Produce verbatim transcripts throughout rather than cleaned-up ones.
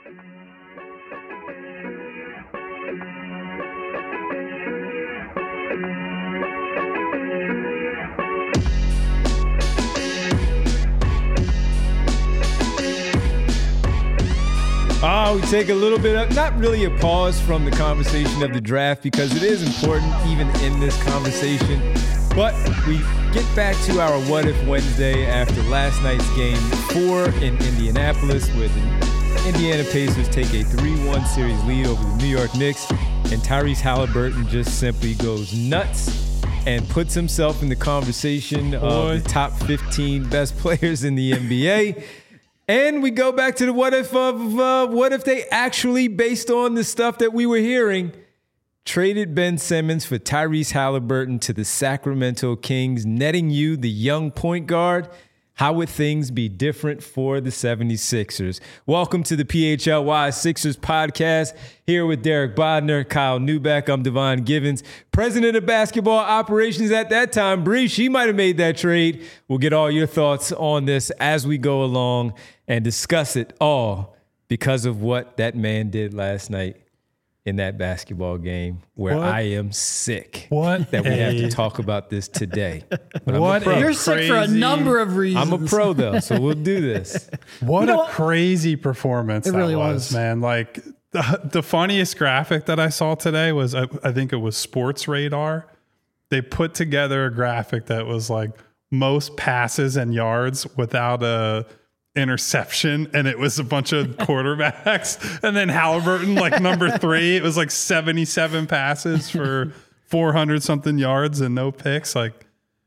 Oh, we take a little bit of, not really a pause from the conversation of the draft because it is important even in this conversation. But we get back to our What If Wednesday after last night's game four in Indianapolis, where the Indiana Pacers take a three one series lead over the New York Knicks, and Tyrese Haliburton just simply goes nuts and puts himself in the conversation Boy. of the top fifteen best players in the N B A. And we go back to the what if of uh, what if they actually, based on the stuff that we were hearing, traded Ben Simmons for Tyrese Haliburton to the Sacramento Kings, netting you the young point guard. How would things be different for the seventy-sixers? Welcome to the P H L Y Sixers podcast. Here with Derek Bodner, Kyle Neubeck. I'm Devon Givens, president of basketball operations at that time. Bree, she might have made that trade. We'll get all your thoughts on this as we go along and discuss it all because of what that man did last night in that basketball game, where what? I am sick what that we a... have to talk about this today. But what I'm a pro. You're sick for a number of reasons. I'm a pro, though, so we'll do this. What you know a crazy performance it that really was, was, man. Like, the, the funniest graphic that I saw today was, I, I think it was Sports Radar. They put together a graphic that was like most passes and yards without a interception, and it was a bunch of quarterbacks, and then Haliburton like number three. It was like seventy-seven passes for four hundred something yards and no picks. Like,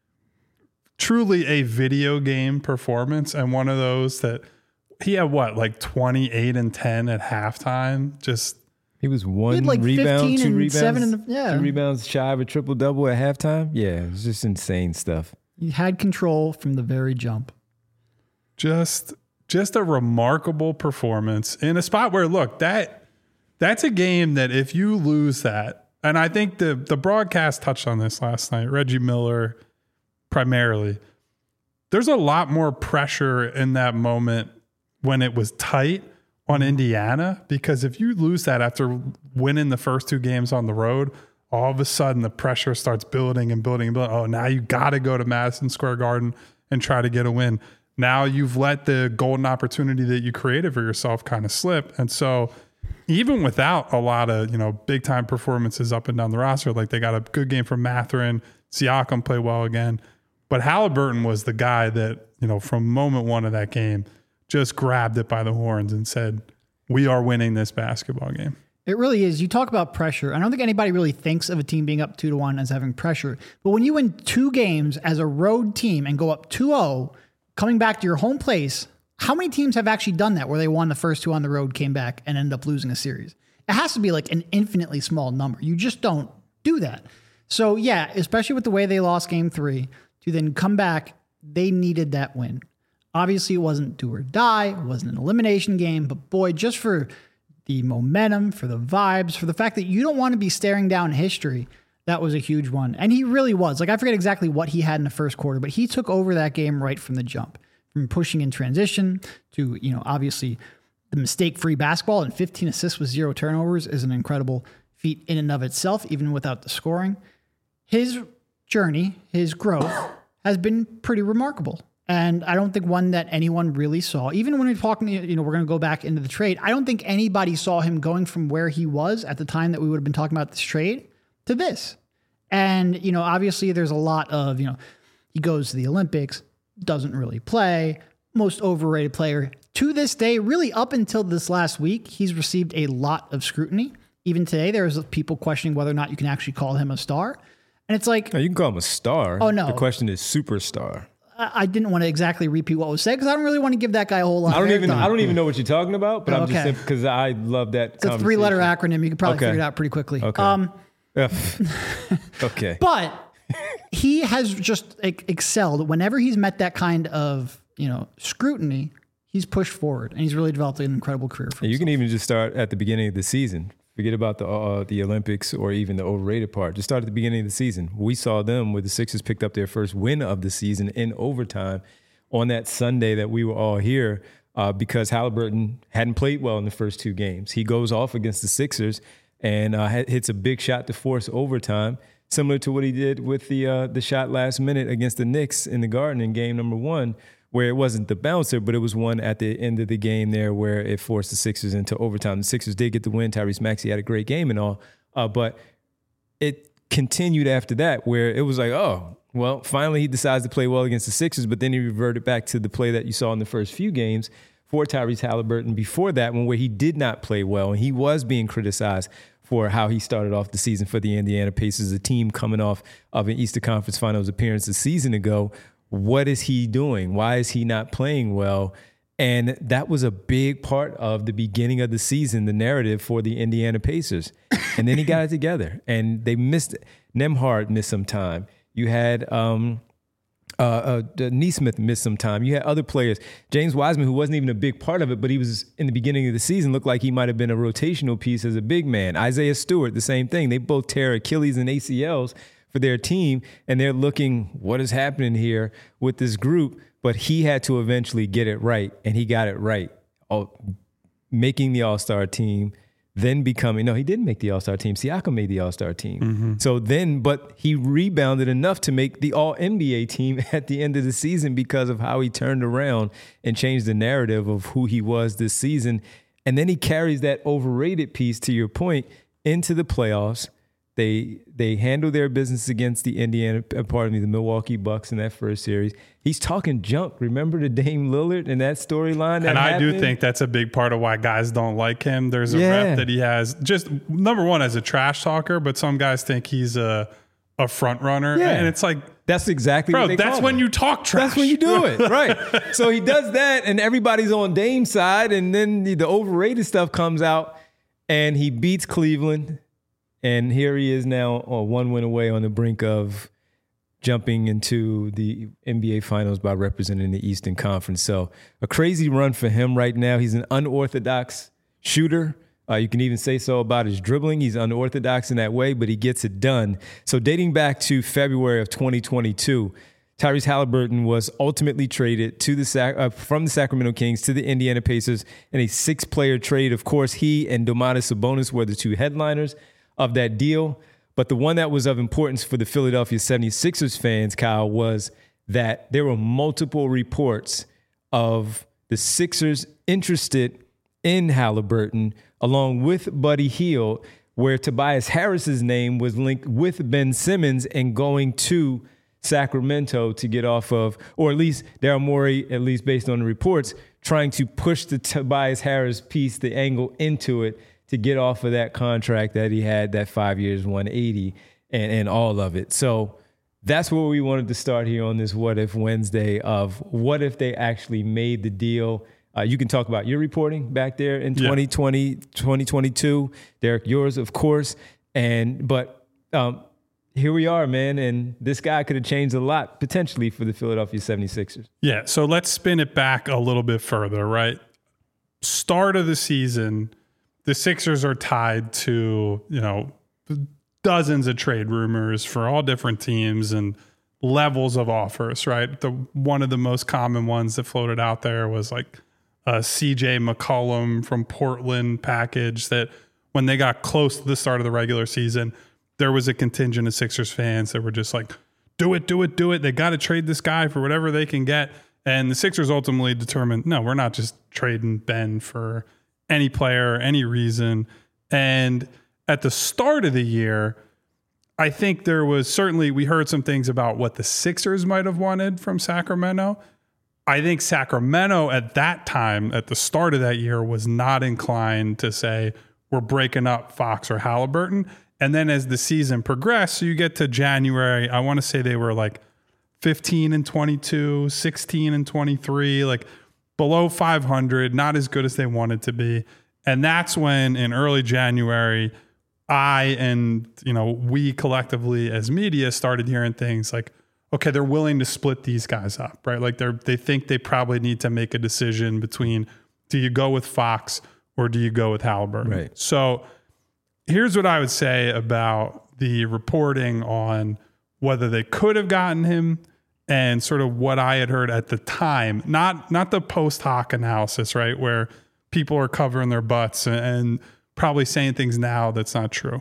truly a video game performance, and one of those that he had what, like twenty-eight and ten at halftime. Just he was one he had like rebound, two and rebounds, seven in the, yeah. two rebounds shy of a triple double at halftime. Yeah, it was just insane stuff. He had control from the very jump. Just, just a remarkable performance in a spot where, look, that that's a game that if you lose that, and I think the the broadcast touched on this last night, Reggie Miller primarily, there's a lot more pressure in that moment when it was tight on Indiana, because if you lose that after winning the first two games on the road, all of a sudden the pressure starts building and building and building. Oh, now you got to go to Madison Square Garden and try to get a win. Now you've let the golden opportunity that you created for yourself kind of slip. And so even without a lot of, you know, big time performances up and down the roster, like they got a good game from Mathurin, Siakam played well again, but Haliburton was the guy that, you know, from moment one of that game, just grabbed it by the horns and said, we are winning this basketball game. It really is. You talk about pressure. I don't think anybody really thinks of a team being up two to one as having pressure, but when you win two games as a road team and go up two oh, coming back to your home place, how many teams have actually done that where they won the first two on the road, came back, and ended up losing a series? It has to be like an infinitely small number. You just don't do that. So yeah, especially with the way they lost game three, to then come back, they needed that win. Obviously, it wasn't do or die. It wasn't an elimination game, but boy, just for the momentum, for the vibes, for the fact that you don't want to be staring down history, that was a huge one. And he really was. Like, I forget exactly what he had in the first quarter, but he took over that game right from the jump. From pushing in transition to, you know, obviously the mistake-free basketball, and fifteen assists with zero turnovers is an incredible feat in and of itself, even without the scoring. His journey, his growth has been pretty remarkable. And I don't think one that anyone really saw. Even when we're talking, you know, we're going to go back into the trade, I don't think anybody saw him going from where he was at the time that we would have been talking about this trade to this. And, you know, obviously there's a lot of, you know, he goes to the Olympics, doesn't really play, most overrated player. To this day, really up until this last week, he's received a lot of scrutiny. Even today, there's people questioning whether or not you can actually call him a star. And it's like... No, you can call him a star. Oh, no. The question is superstar. I didn't want to exactly repeat what was said because I don't really want to give that guy a whole lot I don't of even time. I don't even know what you're talking about, but Oh, I'm okay. just saying because I love that It's a three-letter acronym. You could probably Okay. figure it out pretty quickly. Okay. Um, okay. But he has just ex- excelled. Whenever he's met that kind of, you know, scrutiny, he's pushed forward, and he's really developed an incredible career for You himself. can even just start at the beginning of the season. Forget about the uh, the Olympics or even the overrated part. Just start at the beginning of the season. We saw them where the Sixers picked up their first win of the season in overtime on that Sunday that we were all here. uh, because Halliburton hadn't played well in the first two games. He goes off against the Sixers and uh, hits a big shot to force overtime, similar to what he did with the uh, the shot last minute against the Knicks in the Garden in game number one, where it wasn't the bouncer, but it was one at the end of the game there where it forced the Sixers into overtime. The Sixers did get the win. Tyrese Maxey had a great game and all, uh, but it continued after that where it was like, oh, well, finally he decides to play well against the Sixers, but then he reverted back to the play that you saw in the first few games for Tyrese Halliburton before that one, where he did not play well, and he was being criticized for how he started off the season for the Indiana Pacers, a team coming off of an Eastern Conference Finals appearance a season ago. What is he doing? Why is he not playing well? And that was a big part of the beginning of the season, the narrative for the Indiana Pacers. And then he got it together, and they missed it. Nembhard missed some time. You had um, uh, uh, Nesmith missed some time. You had other players. James Wiseman, who wasn't even a big part of it, but he was in the beginning of the season, looked like he might have been a rotational piece as a big man. Isaiah Stewart, the same thing. They both tear Achilles and A C Ls for their team, and they're looking, what is happening here with this group? But he had to eventually get it right, and he got it right, all, making the All-Star team, then becoming, no, he didn't make the All-Star team. Siakam made the All-Star team. Mm-hmm. So then, but he rebounded enough to make the All-N B A team at the end of the season because of how he turned around and changed the narrative of who he was this season. And then he carries that overrated piece, to your point, into the playoffs. They they handle their business against the Indiana, pardon me, the Milwaukee Bucks in that first series. He's talking junk. Remember the Dame Lillard and that storyline? That and I happened? do think that's a big part of why guys don't like him. There's a Yeah. rep that he has, just number one as a trash talker, but some guys think he's a a front runner, Yeah. and it's like, That's exactly bro, what they that's call when him. you talk trash. That's when you do it, right? So he does that, and everybody's on Dame's side, and then the, the overrated stuff comes out, and he beats Cleveland, and here he is now, oh, one win away on the brink of jumping into the N B A Finals by representing the Eastern Conference. So a crazy run for him right now. He's an unorthodox shooter. Uh, you can even say so about his dribbling. He's unorthodox in that way, but he gets it done. So dating back to February of twenty twenty-two, Tyrese Halliburton was ultimately traded to the Sac- uh, from the Sacramento Kings to the Indiana Pacers in a six-player trade. Of course, he and Domantas Sabonis were the two headliners of that deal. But the one that was of importance for the Philadelphia seventy-sixers fans, Kyle, was that there were multiple reports of the Sixers interested in Halliburton, along with Buddy Hield, where Tobias Harris's name was linked with Ben Simmons and going to Sacramento to get off of, or at least Daryl Morey, at least based on the reports, trying to push the Tobias Harris piece, the angle into it, to get off of that contract that he had, that five years, one eighty, and, and all of it. So that's where we wanted to start here on this What If Wednesday of what if they actually made the deal. Uh, you can talk about your reporting back there in Yeah. twenty twenty, twenty twenty-two. Derek, yours, of course. And But um, here we are, man, and this guy could have changed a lot potentially for the Philadelphia seventy-sixers. Yeah, so let's spin it back a little bit further, right? Start of the season, the Sixers are tied to, you know, dozens of trade rumors for all different teams and levels of offers, right? The one of the most common ones that floated out there was like a C J McCollum from Portland package that when they got close to the start of the regular season, there was a contingent of Sixers fans that were just like, do it, do it, do it. They got to trade this guy for whatever they can get. And the Sixers ultimately determined, no, we're not just trading Ben for any player, any reason. And at the start of the year, I think there was certainly, we heard some things about what the Sixers might have wanted from Sacramento. I think Sacramento at that time, at the start of that year, was not inclined to say, we're breaking up Fox or Halliburton. And then as the season progressed, so you get to January, I want to say they were like fifteen and twenty-two, sixteen and twenty-three, like below five hundred, not as good as they wanted to be. And that's when in early January, I and, you know, we collectively as media started hearing things like, okay, they're willing to split these guys up, right? Like they're, they think they probably need to make a decision between, do you go with Fox or do you go with Halliburton? Right. So here's what I would say about the reporting on whether they could have gotten him and sort of what I had heard at the time, not not the post hoc analysis, right, where people are covering their butts and, and probably saying things now that's not true.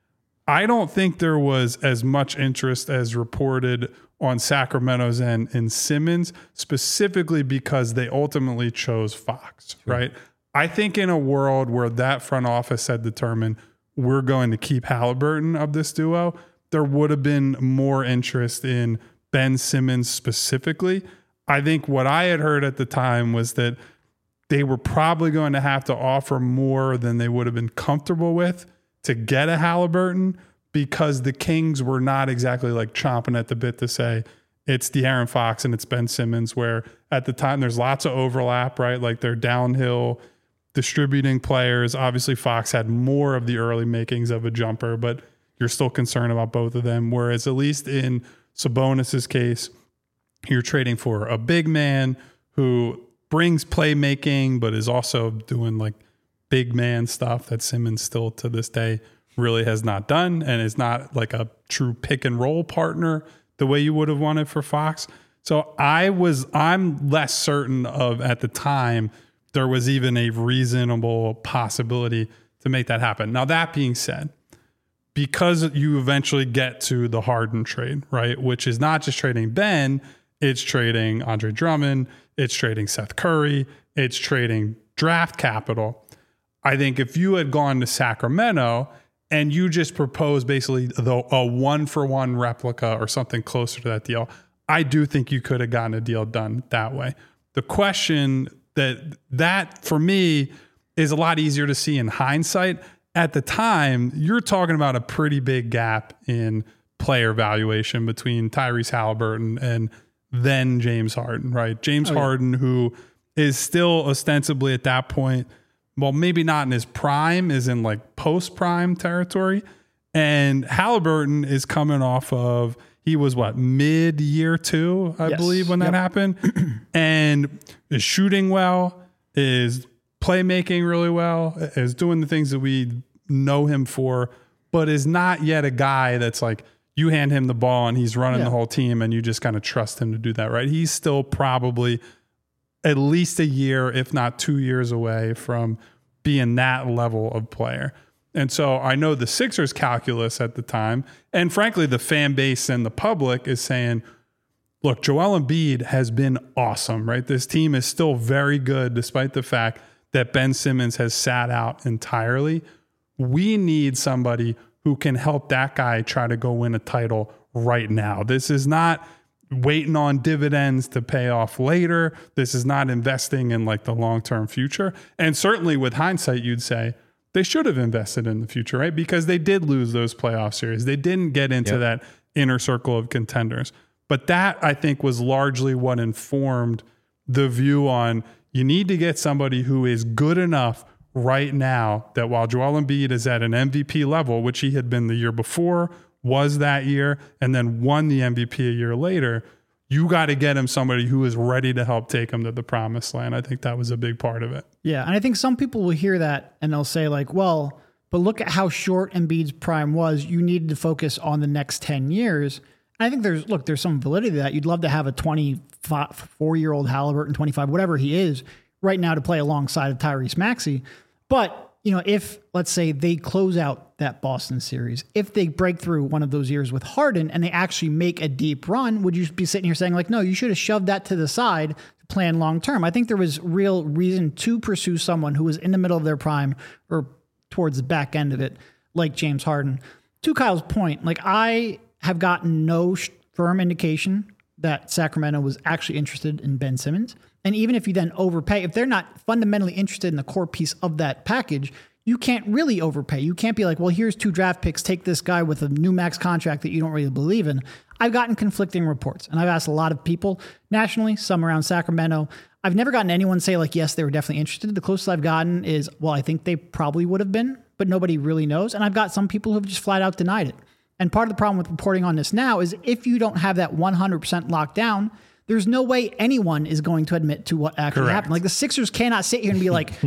I don't think there was as much interest as reported on Sacramento's end in Simmons, specifically because they ultimately chose Fox, sure. right? I think in a world where that front office had determined we're going to keep Halliburton of this duo, there would have been more interest in Ben Simmons specifically. I think what I had heard at the time was that they were probably going to have to offer more than they would have been comfortable with to get a Halliburton, because the Kings were not exactly like chomping at the bit to say it's De'Aaron Fox and it's Ben Simmons, where at the time there's lots of overlap, right? Like they're downhill distributing players. Obviously Fox had more of the early makings of a jumper, but you're still concerned about both of them. Whereas at least in Sabonis's case, you're trading for a big man who brings playmaking, but is also doing like big man stuff that Simmons still to this day really has not done, and is not like a true pick and roll partner the way you would have wanted for Fox. So I was, I'm less certain of at the time there was even a reasonable possibility to make that happen. Now, that being said, because you eventually get to the Harden trade, right, which is not just trading Ben, it's trading Andre Drummond, it's trading Seth Curry, it's trading draft capital. I think if you had gone to Sacramento and you just proposed basically the, a one-for-one replica or something closer to that deal, I do think you could have gotten a deal done that way. The question that, that for me, is a lot easier to see in hindsight. At the time, you're talking about a pretty big gap in player valuation between Tyrese Halliburton and then James Harden, right? James oh, yeah. Harden, who is still ostensibly at that point, well, maybe not in his prime, is in like post-prime territory. And Halliburton is coming off of, he was what, mid-year two, I yes. believe, when that yep. happened. And is shooting well, is playmaking really well, is doing the things that we know him for, but is not yet a guy that's like, you hand him the ball and he's running yeah. the whole team and you just kind of trust him to do that, right? He's still probably at least a year, if not two years away from being that level of player. And so I know the Sixers calculus at the time, and frankly, the fan base and the public is saying, look, Joel Embiid has been awesome, right? This team is still very good despite the fact that Ben Simmons has sat out entirely. We need somebody who can help that guy try to go win a title right now. This is not waiting on dividends to pay off later. This is not investing in like the long-term future. And certainly with hindsight, you'd say they should have invested in the future, right? Because they did lose those playoff series. They didn't get into yep. that inner circle of contenders. But that, I think, was largely what informed the view on you need to get somebody who is good enough right now that while Joel Embiid is at an M V P level, which he had been the year before, was that year, and then won the M V P a year later, you got to get him somebody who is ready to help take him to the promised land. I think that was a big part of it. Yeah, and I think some people will hear that and they'll say like, well, but look at how short Embiid's prime was. You needed to focus on the next ten years. And I think there's, look, there's some validity to that. You'd love to have a twenty-four-year-old Halliburton, twenty-five, whatever he is, right now to play alongside of Tyrese Maxey. But, you know, if, let's say, they close out that Boston series, if they break through one of those years with Harden and they actually make a deep run, would you be sitting here saying, like, no, you should have shoved that to the side to plan long term? I think there was real reason to pursue someone who was in the middle of their prime or towards the back end of it, like James Harden. To Kyle's point, like, I have gotten no sh- firm indication that Sacramento was actually interested in Ben Simmons. And even if you then overpay, if they're not fundamentally interested in the core piece of that package, you can't really overpay. You can't be like, well, here's two draft picks, take this guy with a new max contract that you don't really believe in. I've gotten conflicting reports, and I've asked a lot of people nationally, some around Sacramento. I've never gotten anyone say like, yes, they were definitely interested. The closest I've gotten is, well, I think they probably would have been, but nobody really knows. And I've got some people who have just flat out denied it. And part of the problem with reporting on this now is if you don't have that one hundred percent locked down, there's no way anyone is going to admit to what actually Correct. happened. Like the Sixers cannot sit here and be like,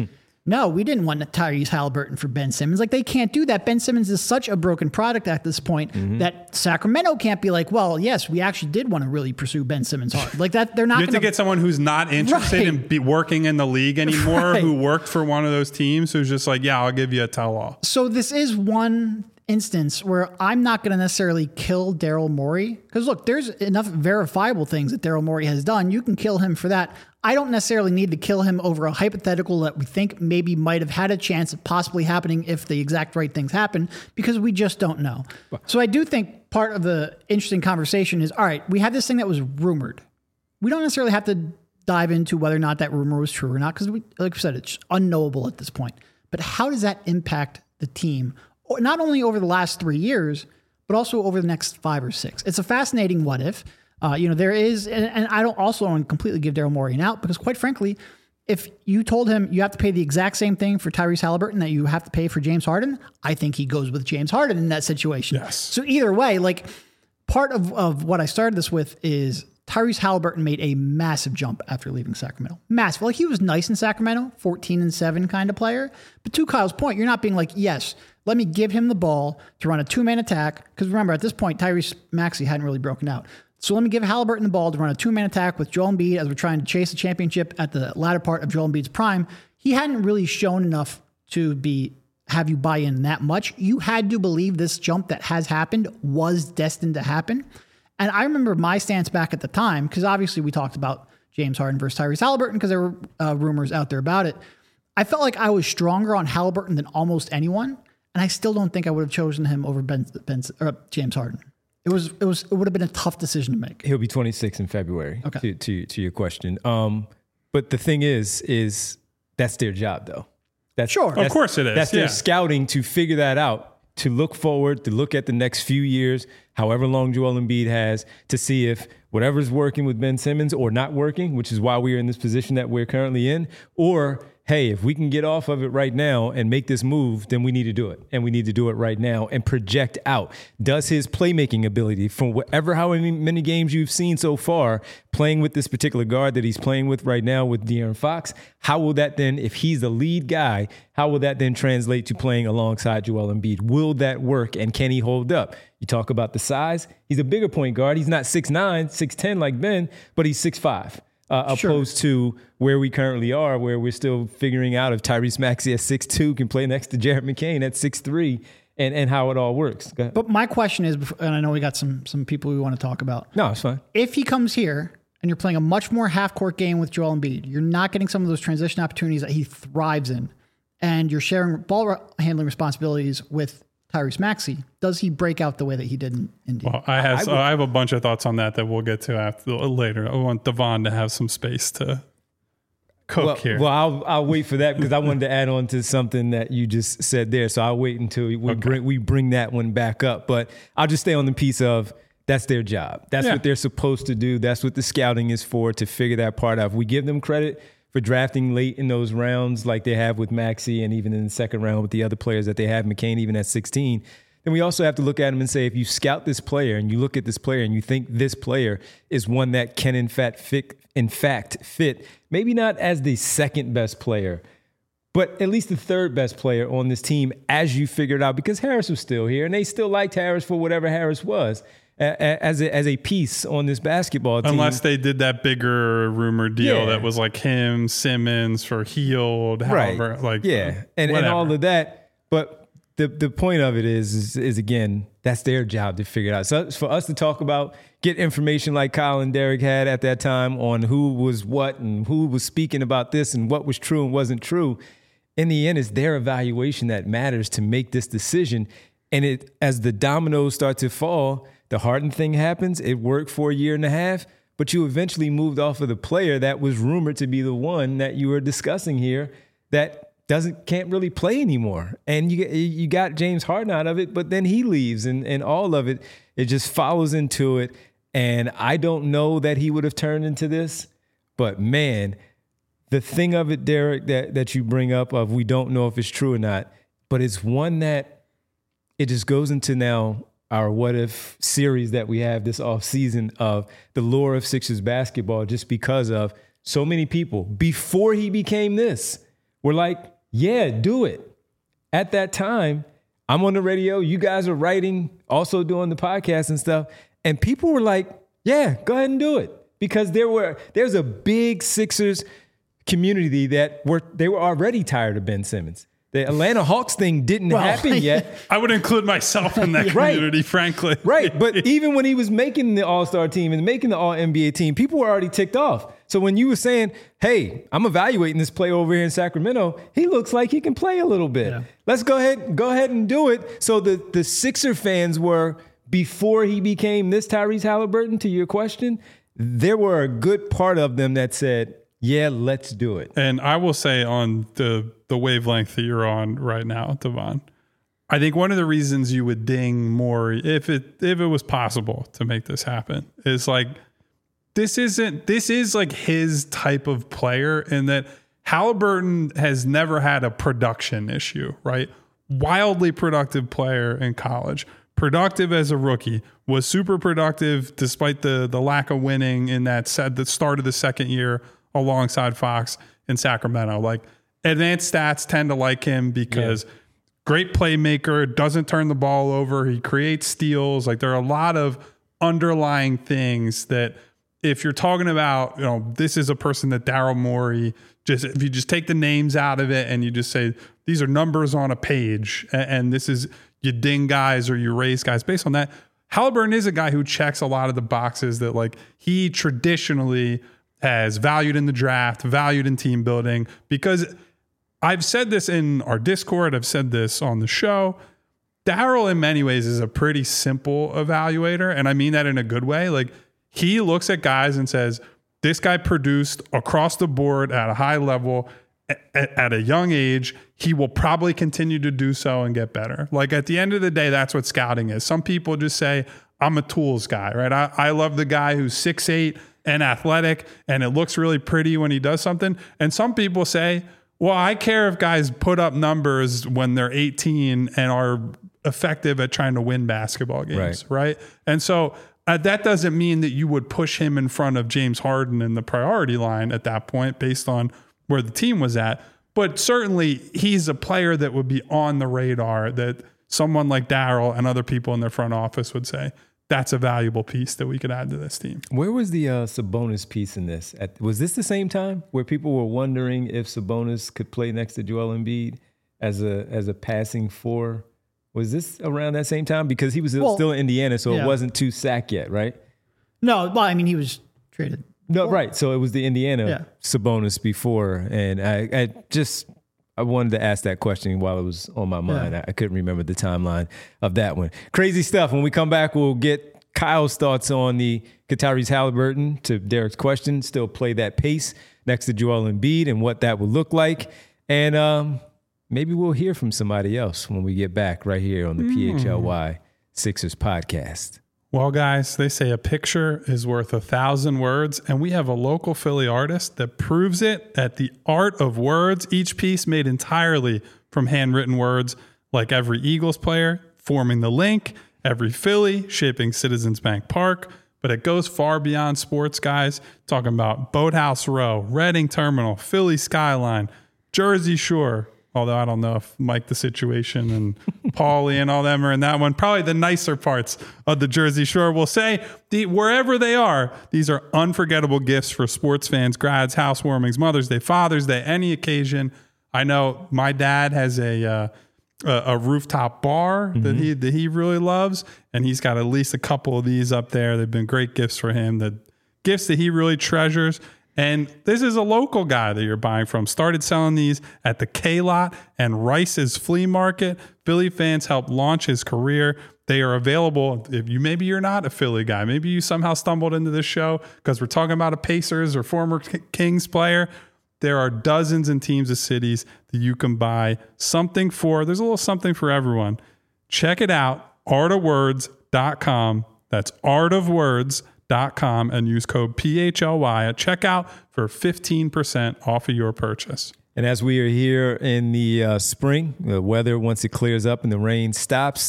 No, we didn't want Tyrese Halliburton for Ben Simmons. Like, they can't do that. Ben Simmons is such a broken product at this point mm-hmm. that Sacramento can't be like, well, yes, we actually did want to really pursue Ben Simmons hard. Like that, they're not. You have gonna, to get someone who's not interested right. in be working in the league anymore, right. who worked for one of those teams, who's just like, yeah, I'll give you a tell-all. So this is one instance where I'm not going to necessarily kill Daryl Morey, because look, there's enough verifiable things that Daryl Morey has done. You can kill him for that. I don't necessarily need to kill him over a hypothetical that we think maybe might have had a chance of possibly happening if the exact right things happen, because we just don't know. So I do think part of the interesting conversation is, all right, we have this thing that was rumored. We don't necessarily have to dive into whether or not that rumor was true or not, because, like I said, it's unknowable at this point. But how does that impact the team, not only over the last three years, but also over the next five or six? It's a fascinating what if. Uh, you know, there is, and, and I don't also want to completely give Daryl Morey an out, because quite frankly, if you told him you have to pay the exact same thing for Tyrese Halliburton that you have to pay for James Harden, I think he goes with James Harden in that situation. Yes. So either way, like part of, of what I started this with is Tyrese Halliburton made a massive jump after leaving Sacramento. Massive. Like, he was nice in Sacramento, fourteen and seven kind of player. But to Kyle's point, you're not being like, yes, let me give him the ball to run a two-man attack. Because remember, at this point, Tyrese Maxey hadn't really broken out. So let me give Halliburton the ball to run a two-man attack with Joel Embiid as we're trying to chase the championship at the latter part of Joel Embiid's prime. He hadn't really shown enough to be have you buy in that much. You had to believe this jump that has happened was destined to happen. And I remember my stance back at the time, because obviously we talked about James Harden versus Tyrese Halliburton because there were uh, rumors out there about it. I felt like I was stronger on Halliburton than almost anyone, and I still don't think I would have chosen him over Ben, Ben or James Harden. It was it was it would have been a tough decision to make. He'll be twenty-six in February. Okay. To to to your question, um, but the thing is, is that's their job though. That's sure, that's, of course it is. That's yeah. their scouting to figure that out, to look forward, to look at the next few years, however long Joel Embiid has, to see if whatever's working with Ben Simmons or not working, which is why we're in this position that we're currently in, or hey, if we can get off of it right now and make this move, then we need to do it. And we need to do it right now and project out. Does his playmaking ability, from whatever, how many games you've seen so far, playing with this particular guard that he's playing with right now with De'Aaron Fox, how will that then, if he's the lead guy, how will that then translate to playing alongside Joel Embiid? Will that work, and can he hold up? You talk about the size. He's a bigger point guard. He's not six nine, six ten like Ben, but he's six five. Uh, sure. Opposed to where we currently are, where we're still figuring out if Tyrese Maxey at six two can play next to Jared McCain at six three, and, and how it all works. But my question is, and I know we got some some people we want to talk about. No, it's fine. If he comes here and you're playing a much more half-court game with Joel Embiid, you're not getting some of those transition opportunities that he thrives in, and you're sharing ball handling responsibilities with Tyrese Maxey, does he break out the way that he did in Indy? Well, I have I, so would, I have a bunch of thoughts on that that we'll get to after later. I want Devon to have some space to cook well, here. Well, I'll I'll wait for that because I wanted to add on to something that you just said there. So I'll wait until we okay. bring we bring that one back up. But I'll just stay on the piece of that's their job. That's yeah. what they're supposed to do. That's what the scouting is for, to figure that part out. If we give them credit for drafting late in those rounds like they have with Maxey, and even in the second round with the other players that they have, McCain even at sixteen, then we also have to look at him and say, if you scout this player and you look at this player and you think this player is one that can in fact fit, in fact fit, maybe not as the second best player, but at least the third best player on this team as you figure it out, because Harris was still here and they still liked Harris for whatever Harris was as a, as a piece on this basketball team. Unless they did that bigger rumor deal Yeah. that was like him, Simmons for Hield, however, right. like yeah, and, and all of that. But the the point of it is, is, is again, that's their job to figure it out. So for us to talk about, get information like Kyle and Derek had at that time on who was what and who was speaking about this and what was true and wasn't true, in the end, it's their evaluation that matters to make this decision. And it, as the dominoes start to fall, the Harden thing happens. It worked for a year and a half, but you eventually moved off of the player that was rumored to be the one that you were discussing here that doesn't can't really play anymore. And you you got James Harden out of it, but then he leaves, and, and all of it, it just follows into it. And I don't know that he would have turned into this, but man, the thing of it, Derek, that, that you bring up of we don't know if it's true or not, but it's one that it just goes into now our what if series that we have this off season of the lore of Sixers basketball, just because of so many people before he became this were like, yeah, do it. At that time, I'm on the radio. You guys are writing, also doing the podcast and stuff. And people were like, yeah, go ahead and do it. Because there were there's a big Sixers community that were they were already tired of Ben Simmons. The Atlanta Hawks thing didn't well, happen yet. I would include myself in that community, right. frankly. Right. But even when he was making the All-Star team and making the All-N B A team, people were already ticked off. So when you were saying, hey, I'm evaluating this play over here in Sacramento, he looks like he can play a little bit. Yeah. Let's go ahead, go ahead and do it. So the, the Sixer fans were, before he became this Tyrese Halliburton, to your question, there were a good part of them that said, yeah, let's do it. And I will say on the the wavelength that you're on right now, Devon, I think one of the reasons you would ding more if it if it was possible to make this happen is like this isn't this is like his type of player in that Halliburton has never had a production issue, right? Wildly productive player in college, productive as a rookie, was super productive despite the the lack of winning in that set the start of the second year alongside Fox in Sacramento. Like, advanced stats tend to like him because yeah. great playmaker, doesn't turn the ball over, he creates steals. Like, there are a lot of underlying things that if you're talking about, you know, this is a person that Daryl Morey, just if you just take the names out of it and you just say, these are numbers on a page, and, and this is, you ding guys or you raise guys based on that. Halliburton is a guy who checks a lot of the boxes that, like, he traditionally has valued in the draft, valued in team building, because I've said this in our Discord, I've said this on the show. Daryl, in many ways, is a pretty simple evaluator, and I mean that in a good way. Like, he looks at guys and says, this guy produced across the board at a high level at, at a young age. He will probably continue to do so and get better. Like, at the end of the day, that's what scouting is. Some people just say, I'm a tools guy, right? I, I love the guy who's six eight and athletic, and it looks really pretty when he does something. And some people say, well, I care if guys put up numbers when they're eighteen and are effective at trying to win basketball games, right? right? And so uh, that doesn't mean that you would push him in front of James Harden in the priority line at that point based on where the team was at. But certainly he's a player that would be on the radar that someone like Daryl and other people in their front office would say, that's a valuable piece that we could add to this team. Where was the uh, Sabonis piece in this? At, was this the same time where people were wondering if Sabonis could play next to Joel Embiid as a as a passing four? Was this around that same time? Because he was well, still in Indiana, so yeah. it wasn't too sack yet, right? No, well, I mean, he was traded. No, right. So it was the Indiana yeah. Sabonis before, and I, I just I wanted to ask that question while it was on my mind. Yeah. I, I couldn't remember the timeline of that one. Crazy stuff. When we come back, we'll get Kyle's thoughts on the Tyrese Halliburton, to Derek's question, still play that pace next to Joel Embiid and what that would look like. And um, maybe we'll hear from somebody else when we get back right here on the mm. P H L Y Sixers podcast. Well, guys, they say a picture is worth a thousand words, and we have a local Philly artist that proves it at the Art of Words, each piece made entirely from handwritten words, like every Eagles player forming the link, every Philly shaping Citizens Bank Park, but it goes far beyond sports, guys, talking about Boathouse Row, Reading Terminal, Philly Skyline, Jersey Shore, although I don't know if Mike the Situation and Paulie and all them are in that one. Probably the nicer parts of the Jersey Shore. We'll say the, wherever they are, these are unforgettable gifts for sports fans, grads, housewarmings, Mother's Day, Father's Day, any occasion. I know my dad has a uh, a, a rooftop bar mm-hmm. that he that he really loves, and he's got at least a couple of these up there. They've been great gifts for him. The gifts that he really treasures. And this is a local guy that you're buying from. Started selling these at the K-Lot and Rice's Flea Market. Philly fans helped launch his career. They are available. If you maybe you're not a Philly guy, maybe you somehow stumbled into this show because we're talking about a Pacers or former Kings player. There are dozens and teams of cities that you can buy something for. There's a little something for everyone. Check it out, art of words dot com. That's art of words dot com and use code P H L Y at checkout for fifteen percent off of your purchase. And as we are here in the uh, spring, the weather, once it clears up and the rain stops,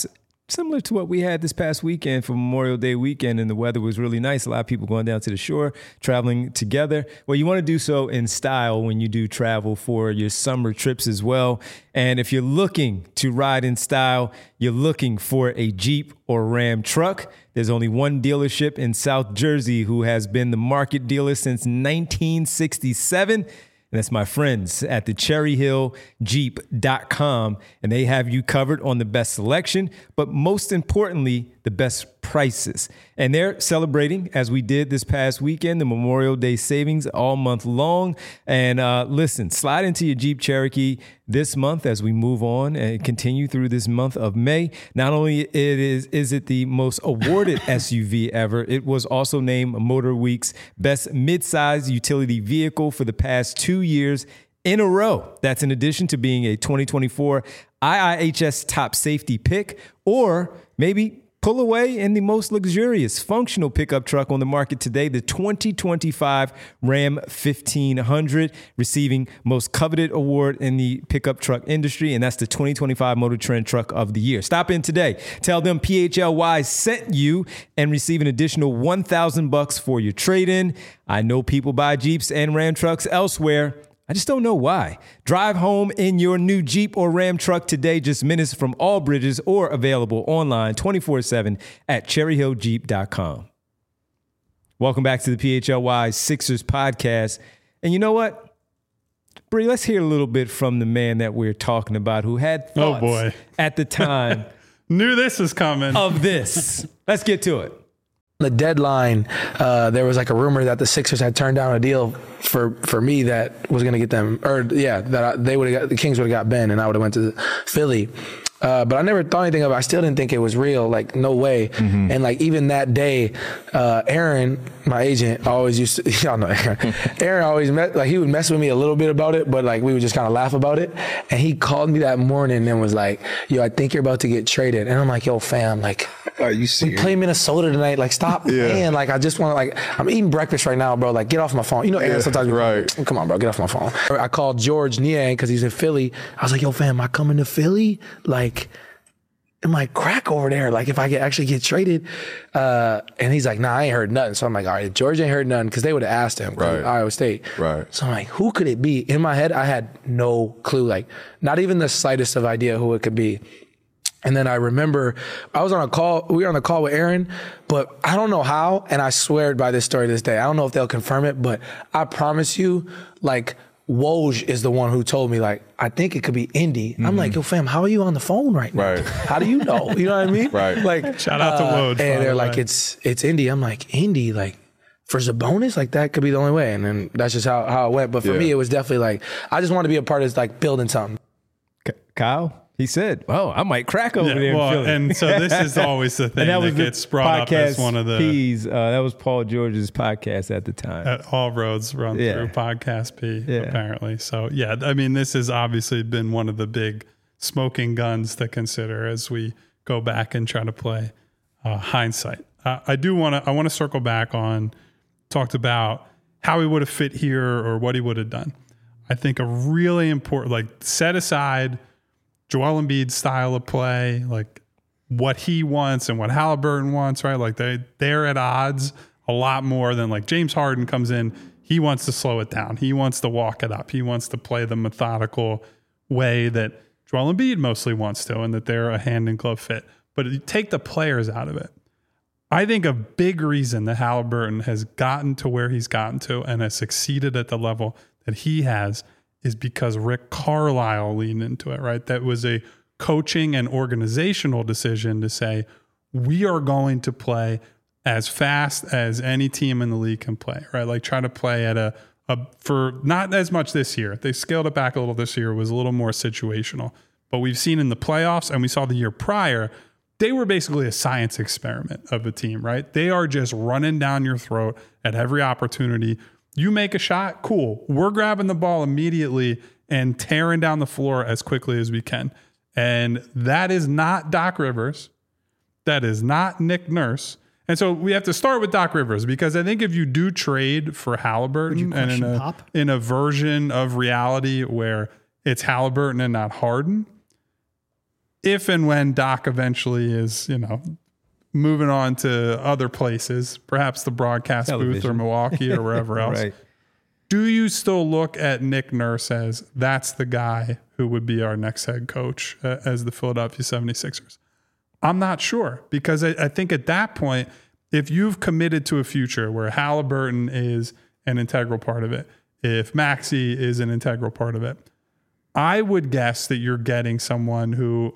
similar to what we had this past weekend for Memorial Day weekend, and the weather was really nice. A lot of people going down to the shore, traveling together. Well, you want to do so in style when you do travel for your summer trips as well. And if you're looking to ride in style, you're looking for a Jeep or Ram truck, there's only one dealership in South Jersey who has been the market dealer since nineteen sixty-seven. And that's my friends at the cherry hill jeep dot com. And they have you covered on the best selection, but most importantly, the best prices. And they're celebrating, as we did this past weekend, the Memorial Day savings all month long. And uh, listen, slide into your Jeep Cherokee this month as we move on and continue through this month of May. Not only it is, is it the most awarded S U V ever, it was also named Motor Week's best midsize utility vehicle for the past two years in a row. That's in addition to being a twenty twenty-four I I H S top safety pick, or maybe pull away in the most luxurious functional pickup truck on the market today, the twenty twenty-five Ram fifteen hundred, receiving most coveted award in the pickup truck industry, and that's the twenty twenty-five Motor Trend Truck of the Year. Stop in today. Tell them P H L Y sent you and receive an additional one thousand bucks for your trade-in. I know people buy Jeeps and Ram trucks elsewhere. I just don't know why. Drive home in your new Jeep or Ram truck today, just minutes from all bridges, or available online twenty-four seven at cherry hill jeep dot com. Welcome back to the P H L Y Sixers podcast. And you know what? Bree, let's hear a little bit from the man that we're talking about who had thoughts oh boy. at the time Knew this was coming. of this. Let's get to it. The deadline, uh, there was like a rumor that the Sixers had turned down a deal for, for me that was going to get them, or yeah, that I, they would have got, the Kings would have got Ben and I would have went to Philly. Uh, but I never thought anything of it. I still didn't think it was real. Like, no way. Mm-hmm. And like, even that day, uh, Aaron, my agent, always used to, y'all know Aaron. Aaron always met, like, he would mess with me a little bit about it, but like, we would just kind of laugh about it. And he called me that morning and was like, yo, I think you're about to get traded. And I'm like, yo, fam, like, are you serious? We play Minnesota tonight. Like, stop yeah. playing. Like, I just want to, like, I'm eating breakfast right now, bro. Like, get off my phone. You know, Aaron, yeah, sometimes, right. Come on, bro, get off my phone. I called George Niang because he's in Philly. I was like, yo, fam, am I coming to Philly? Like, am I crack over there? Like, if I get actually get traded? Uh, and he's like, nah, I ain't heard nothing. So I'm like, all right, George ain't heard nothing, because they would have asked him. Right. Iowa State. Right. So I'm like, who could it be? In my head, I had no clue. Like, not even the slightest of idea who it could be. And then I remember I was on a call, we were on a call with Aaron, but I don't know how, and I swear by this story this day. I don't know if they'll confirm it, but I promise you, like, Woj is the one who told me, like, I think it could be Indy. Mm-hmm. I'm like, yo, fam, how are you on the phone right now? Right. How do you know? You know what I mean? Right. Like, shout out to uh, Woj. And they're the like, way. it's it's Indy. I'm like, Indy, like, for Sabonis, like, that could be the only way. And then that's just how, how it went. But for yeah. me, it was definitely like, I just want to be a part of, like, building something. Kyle? He said, "Oh, I might crack over yeah, there." Well, in Philly. And so this is always the thing and that, that was gets the brought up as podcast one of the P's. Uh, that was Paul George's podcast at the time. At All Roads Run Yeah. Through Podcast P, Yeah. apparently. So yeah, I mean, this has obviously been one of the big smoking guns to consider as we go back and try to play uh, hindsight. Uh, I do want to. I want to circle back on talked about how he would have fit here or what he would have done. I think a really important, like, set aside Joel Embiid's style of play, like what he wants and what Halliburton wants, right? Like they, they're at odds a lot more than, like, James Harden comes in. He wants to slow it down. He wants to walk it up. He wants to play the methodical way that Joel Embiid mostly wants to, and that they're a hand and glove fit. But you take the players out of it. I think a big reason that Halliburton has gotten to where he's gotten to and has succeeded at the level that he has is because Rick Carlisle leaned into it, right? That was a coaching and organizational decision to say, we are going to play as fast as any team in the league can play, right? Like, try to play at a, a for not as much this year. They scaled it back a little this year. It was a little more situational. But we've seen in the playoffs, and we saw the year prior, they were basically a science experiment of a team, right? They are just running down your throat at every opportunity. You make a shot, cool. We're grabbing the ball immediately and tearing down the floor as quickly as we can. And that is not Doc Rivers. That is not Nick Nurse. And so we have to start with Doc Rivers, because I think if you do trade for Halliburton and in a, in a version of reality where it's Halliburton and not Harden, if and when Doc eventually is, you know, moving on to other places, perhaps the broadcast Television. booth or Milwaukee or wherever else, Right. do you still look at Nick Nurse as that's the guy who would be our next head coach uh, as the Philadelphia seventy-sixers? I'm not sure, because I, I think at that point, if you've committed to a future where Halliburton is an integral part of it, if Maxey is an integral part of it, I would guess that you're getting someone who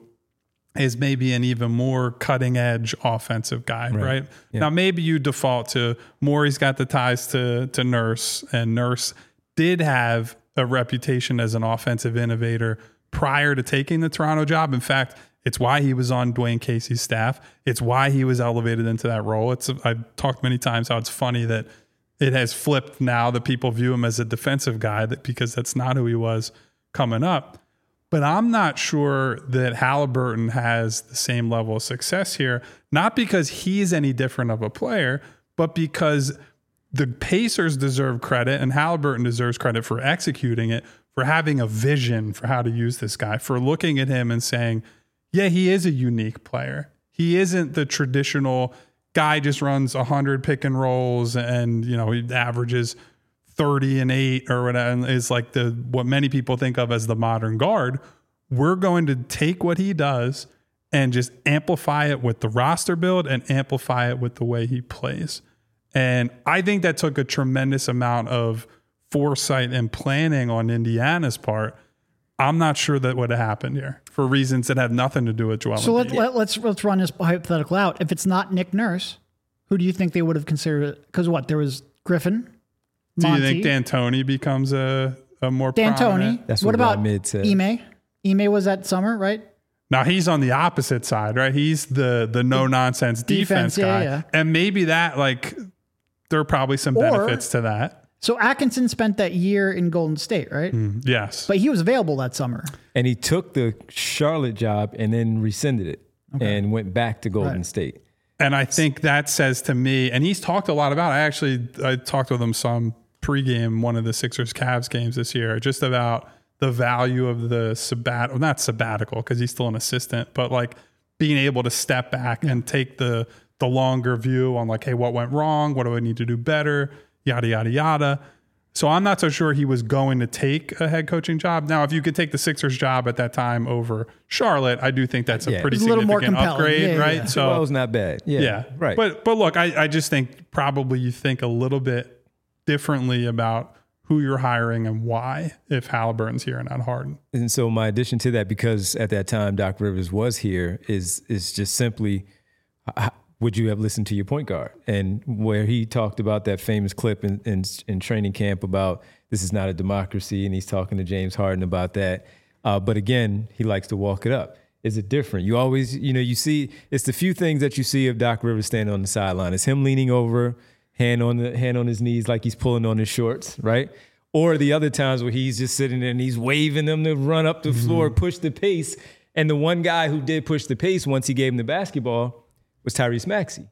is maybe an even more cutting edge offensive guy, right? right? Yeah. Now, maybe you default to Morey's got the ties to, to Nurse, and Nurse did have a reputation as an offensive innovator prior to taking the Toronto job. In fact, it's why he was on Dwayne Casey's staff. It's why he was elevated into that role. It's I've talked many times how it's funny that it has flipped now that people view him as a defensive guy, that because that's not who he was coming up. But I'm not sure that Halliburton has the same level of success here, not because he's any different of a player, but because the Pacers deserve credit and Halliburton deserves credit for executing it, for having a vision for how to use this guy, for looking at him and saying, yeah, he is a unique player. He isn't the traditional guy just runs one hundred pick and rolls and, you know, he averages thirty and eight or whatever, and is like the what many people think of as the modern guard. We're going to take what he does and just amplify it with the roster build and amplify it with the way he plays. And I think that took a tremendous amount of foresight and planning on Indiana's part. I'm not sure that would have happened here for reasons that have nothing to do with Joel So Embiid. let, let, let's let's run this hypothetical out. If it's not Nick Nurse, who do you think they would have considered it? Because what? There was Griffin, Do Monty, you think D'Antoni becomes a, a more D'Antoni. prominent? That's what what about Rod Mid said. Ime? Ime was that summer, right? Now he's on the opposite side, right? He's the the no nonsense defense, Defense, yeah, guy, yeah. and maybe that like there are probably some Or- benefits to that. So Atkinson spent that year in Golden State, right? Yes, But he was available that summer. And he took the Charlotte job and then rescinded it and went back to Golden Right. State. and I think that says to me, and he's talked a lot about. I actually I talked with him some pregame one of the Sixers Cavs games this year, just about the value of the sabbat, well, not sabbatical because he's still an assistant, but like being able to step back and take the the longer view on like, hey, what went wrong? What do I need to do better? Yada, yada, yada. So I'm not so sure he was going to take a head coaching job. Now, if you could take the Sixers job at that time over Charlotte, I do think that's a Yeah. pretty It's a little more significant compelling. upgrade, Yeah, yeah, right? yeah. So Well, it was not bad. Yeah. yeah, Right. But but look, I, I just think probably you think a little bit differently about who you're hiring and why if Halliburton's here and not Harden. And so my addition to that, because at that time Doc Rivers was here, is is just simply, uh, would you have listened to your point guard? And where he talked about that famous clip in, in, in training camp about this is not a democracy, and he's talking to James Harden about that. Uh, but again, he likes to walk it up. Is it different? You always, you know, you see, it's the few things that you see of Doc Rivers standing on the sideline. It's him leaning over, hand on the hand on his knees like he's pulling on his shorts, right? Or the other times where he's just sitting there and he's waving them to run up the floor, push the pace. And the one guy who did push the pace once he gave him the basketball was Tyrese Maxey.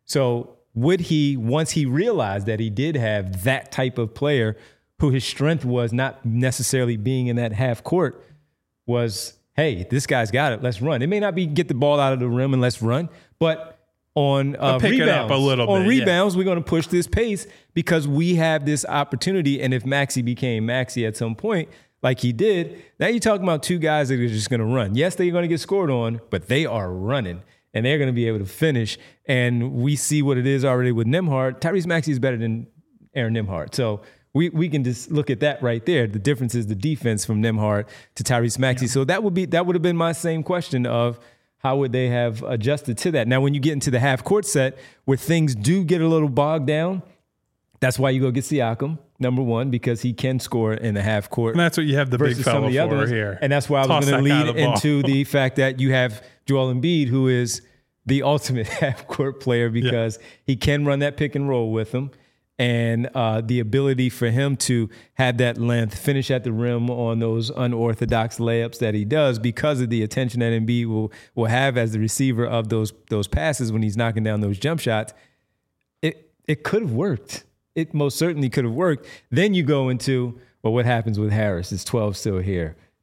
So would he, once he realized that he did have that type of player who his strength was not necessarily being in that half court, was, hey, this guy's got it, let's run. It may not be get the ball out of the rim and let's run, but on uh, pick it rebounds, up a little on bit, yeah. rebounds, we're going to push this pace because we have this opportunity. And if Maxey became Maxey at some point, like he did, now you're talking about two guys that are just going to run. Yes, they're going to get scored on, but they are running. And they're going to be able to finish. And we see what it is already with Nembhard. Tyrese Maxey is better than Aaron Nembhard. So we we can just look at that right there. The difference is the defense from Nembhard to Tyrese Maxey. Yeah. So that would be that would have been my same question of how would they have adjusted to that. Now, when you get into the half court set where things do get a little bogged down, that's why you go get Siakam, number one, because he can score in the half court. And that's what you have the big versus some fella of the for others. here. And that's why I Toss was going to that guy lead the ball. into the fact that you have Joel Embiid, who is the ultimate half-court player because yeah. he can run that pick and roll with him. And uh, the ability for him to have that length, finish at the rim on those unorthodox layups that he does because of the attention that Embiid will, will have as the receiver of those those passes when he's knocking down those jump shots, it it could have worked. It most certainly could have worked. Then you go into, well, what happens with Harris? Is twelve still here?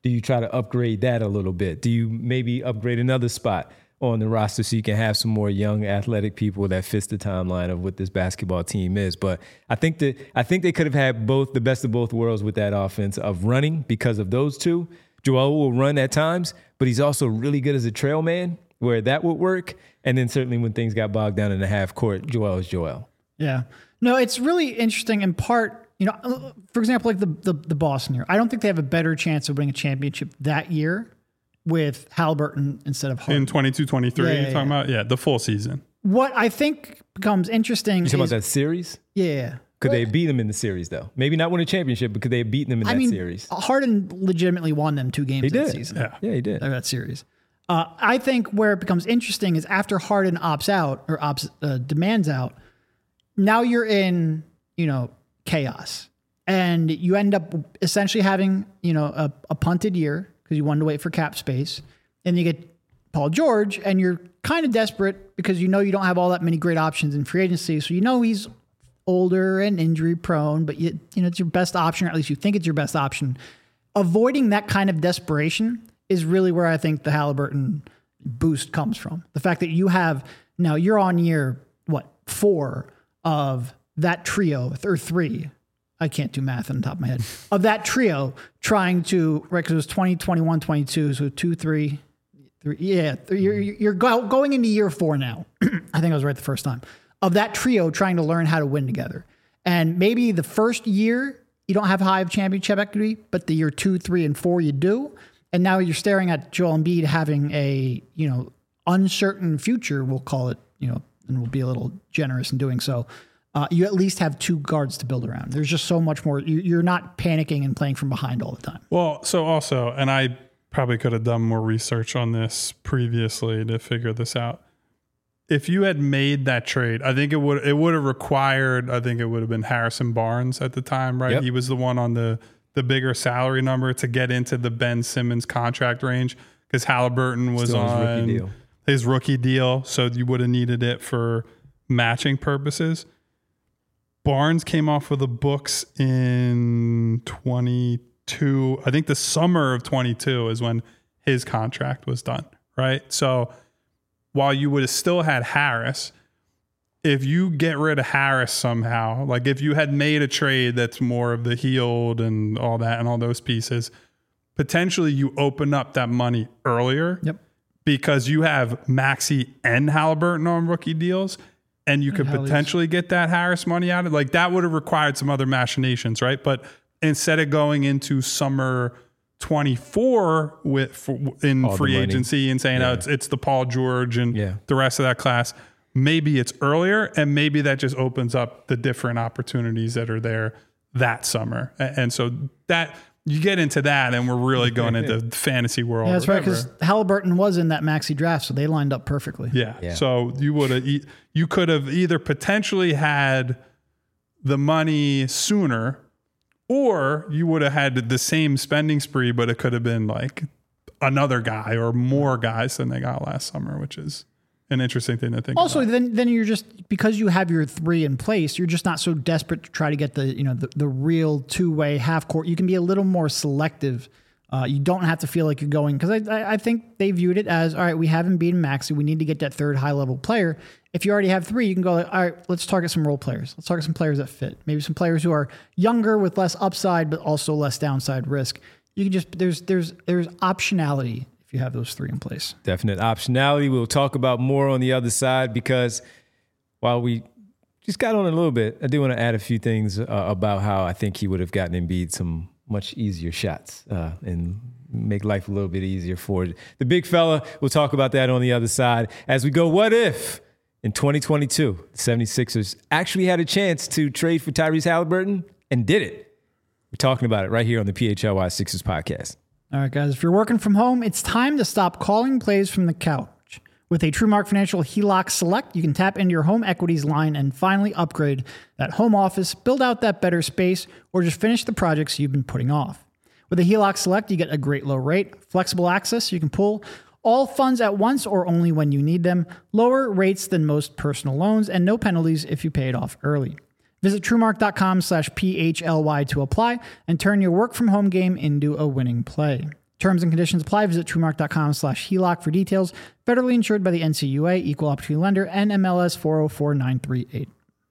Do you try to upgrade that a little bit? Do you maybe upgrade another spot on the roster so you can have some more young athletic people that fits the timeline of what this basketball team is? But I think that I think they could have had both the best of both worlds with that offense of running because of those two. Joel will run at times, but he's also really good as a trail man where that would work. And then certainly when things got bogged down in the half court, Joel is Joel. Yeah. No, it's really interesting in part. You know, for example, like the, the the Boston year, I don't think they have a better chance of winning a championship that year with Halliburton instead of Harden. In twenty-two twenty-three, Yeah, yeah, you're talking yeah. about? Yeah, the full season. What I think becomes interesting You is... talking about that series? Yeah. Could they beat them in the series, though? Maybe not win a championship, but could they have beaten them in I that mean, series? Harden legitimately won them two games He that did. season. Yeah. Yeah, he did. Of that series. Uh, I think where it becomes interesting is after Harden opts out or opts, uh, demands out, now you're in, you know, chaos. And you end up essentially having, you know, a, a punted year because you wanted to wait for cap space. And you get Paul George and you're kind of desperate because you know you don't have all that many great options in free agency. So you know he's older and injury prone, but you, you know, it's your best option, or at least you think it's your best option. Avoiding that kind of desperation is really where I think the Halliburton boost comes from. The fact that you have, now you're on year, what, four of that trio, or three, I can't do math on the top of my head, of that trio trying to, right, because it was twenty, twenty-one, twenty-two, so two, three, three, yeah, three, you're, you're go, going into year four now. I think I was right the first time. Of that trio trying to learn how to win together. And maybe the first year, you don't have high of championship equity, but the year two, three, and four, you do. And now you're staring at Joel Embiid having a, you know, uncertain future, we'll call it, you know, and we'll be a little generous in doing so. Uh, you at least have two guards to build around. There's just so much more. You, you're not panicking and playing from behind all the time. Well, so also, and I probably could have done more research on this previously to figure this out. If you had made that trade, I think it would it would have required, I think it would have been Harrison Barnes at the time, right? Yep. He was the one on the, the bigger salary number to get into the Ben Simmons contract range because Halliburton was Still his on rookie deal. his rookie deal. So you would have needed it for matching purposes. Barnes came off of the books in twenty-two. I think the summer of twenty-two is when his contract was done, right? So while you would have still had Harris, if you get rid of Harris somehow, like if you had made a trade that's more of the Hield and all that and all those pieces, potentially you open up that money earlier. Yep. Because you have Maxey and Halliburton on rookie deals. And you could Hallie's. potentially get that Harris money out of, like, that would have required some other machinations, right? But instead of going into summer twenty-four with for, in All the free money. agency and saying, Yeah. oh, it's it's the Paul George and Yeah. the rest of that class, maybe it's earlier, and maybe that just opens up the different opportunities that are there that summer. A- And so that you get into that, and we're really going into the fantasy world. Yeah, that's right, whatever. because Halliburton was in that maxi draft, so they lined up perfectly. Yeah. Yeah. So you would have, e- you could have either potentially had the money sooner, or you would have had the same spending spree, but it could have been like another guy or more guys than they got last summer, which is an interesting thing to think Also, about. then then you're just, because you have your three in place, you're just not so desperate to try to get the, you know, the, the real two-way half court. You can be a little more selective. Uh, you don't have to feel like you're going, because I, I I think they viewed it as, all right, we haven't beaten Maxey. We need to get that third high-level player. If you already have three, you can go, like, all right, let's target some role players. Let's target some players that fit. Maybe some players who are younger with less upside, but also less downside risk. You can just, there's there's there's optionality if you have those three in place. Definite optionality. We'll talk about more on the other side, because while we just got on a little bit, I do want to add a few things uh, about how I think he would have gotten Embiid some much easier shots uh, and make life a little bit easier for the big fella. We'll talk about that on the other side as we go. What if in twenty twenty-two, the seventy-sixers actually had a chance to trade for Tyrese Halliburton and did it? We're talking about it right here on the P H L Y Sixers podcast. All right, guys, if you're working from home, it's time to stop calling plays from the couch. With a TrueMark Financial H E L O C Select, you can tap into your home equities line and finally upgrade that home office, build out that better space, or just finish the projects you've been putting off. With a H E L O C Select, you get a great low rate, flexible access, you can pull all funds at once or only when you need them, lower rates than most personal loans, and no penalties if you pay it off early. Visit TrueMark.com slash P H L Y to apply and turn your work from home game into a winning play. Terms and conditions apply. Visit truemark.com slash HELOC for details. Federally insured by the N C U A, Equal Opportunity Lender, and M L S four oh four nine three eight.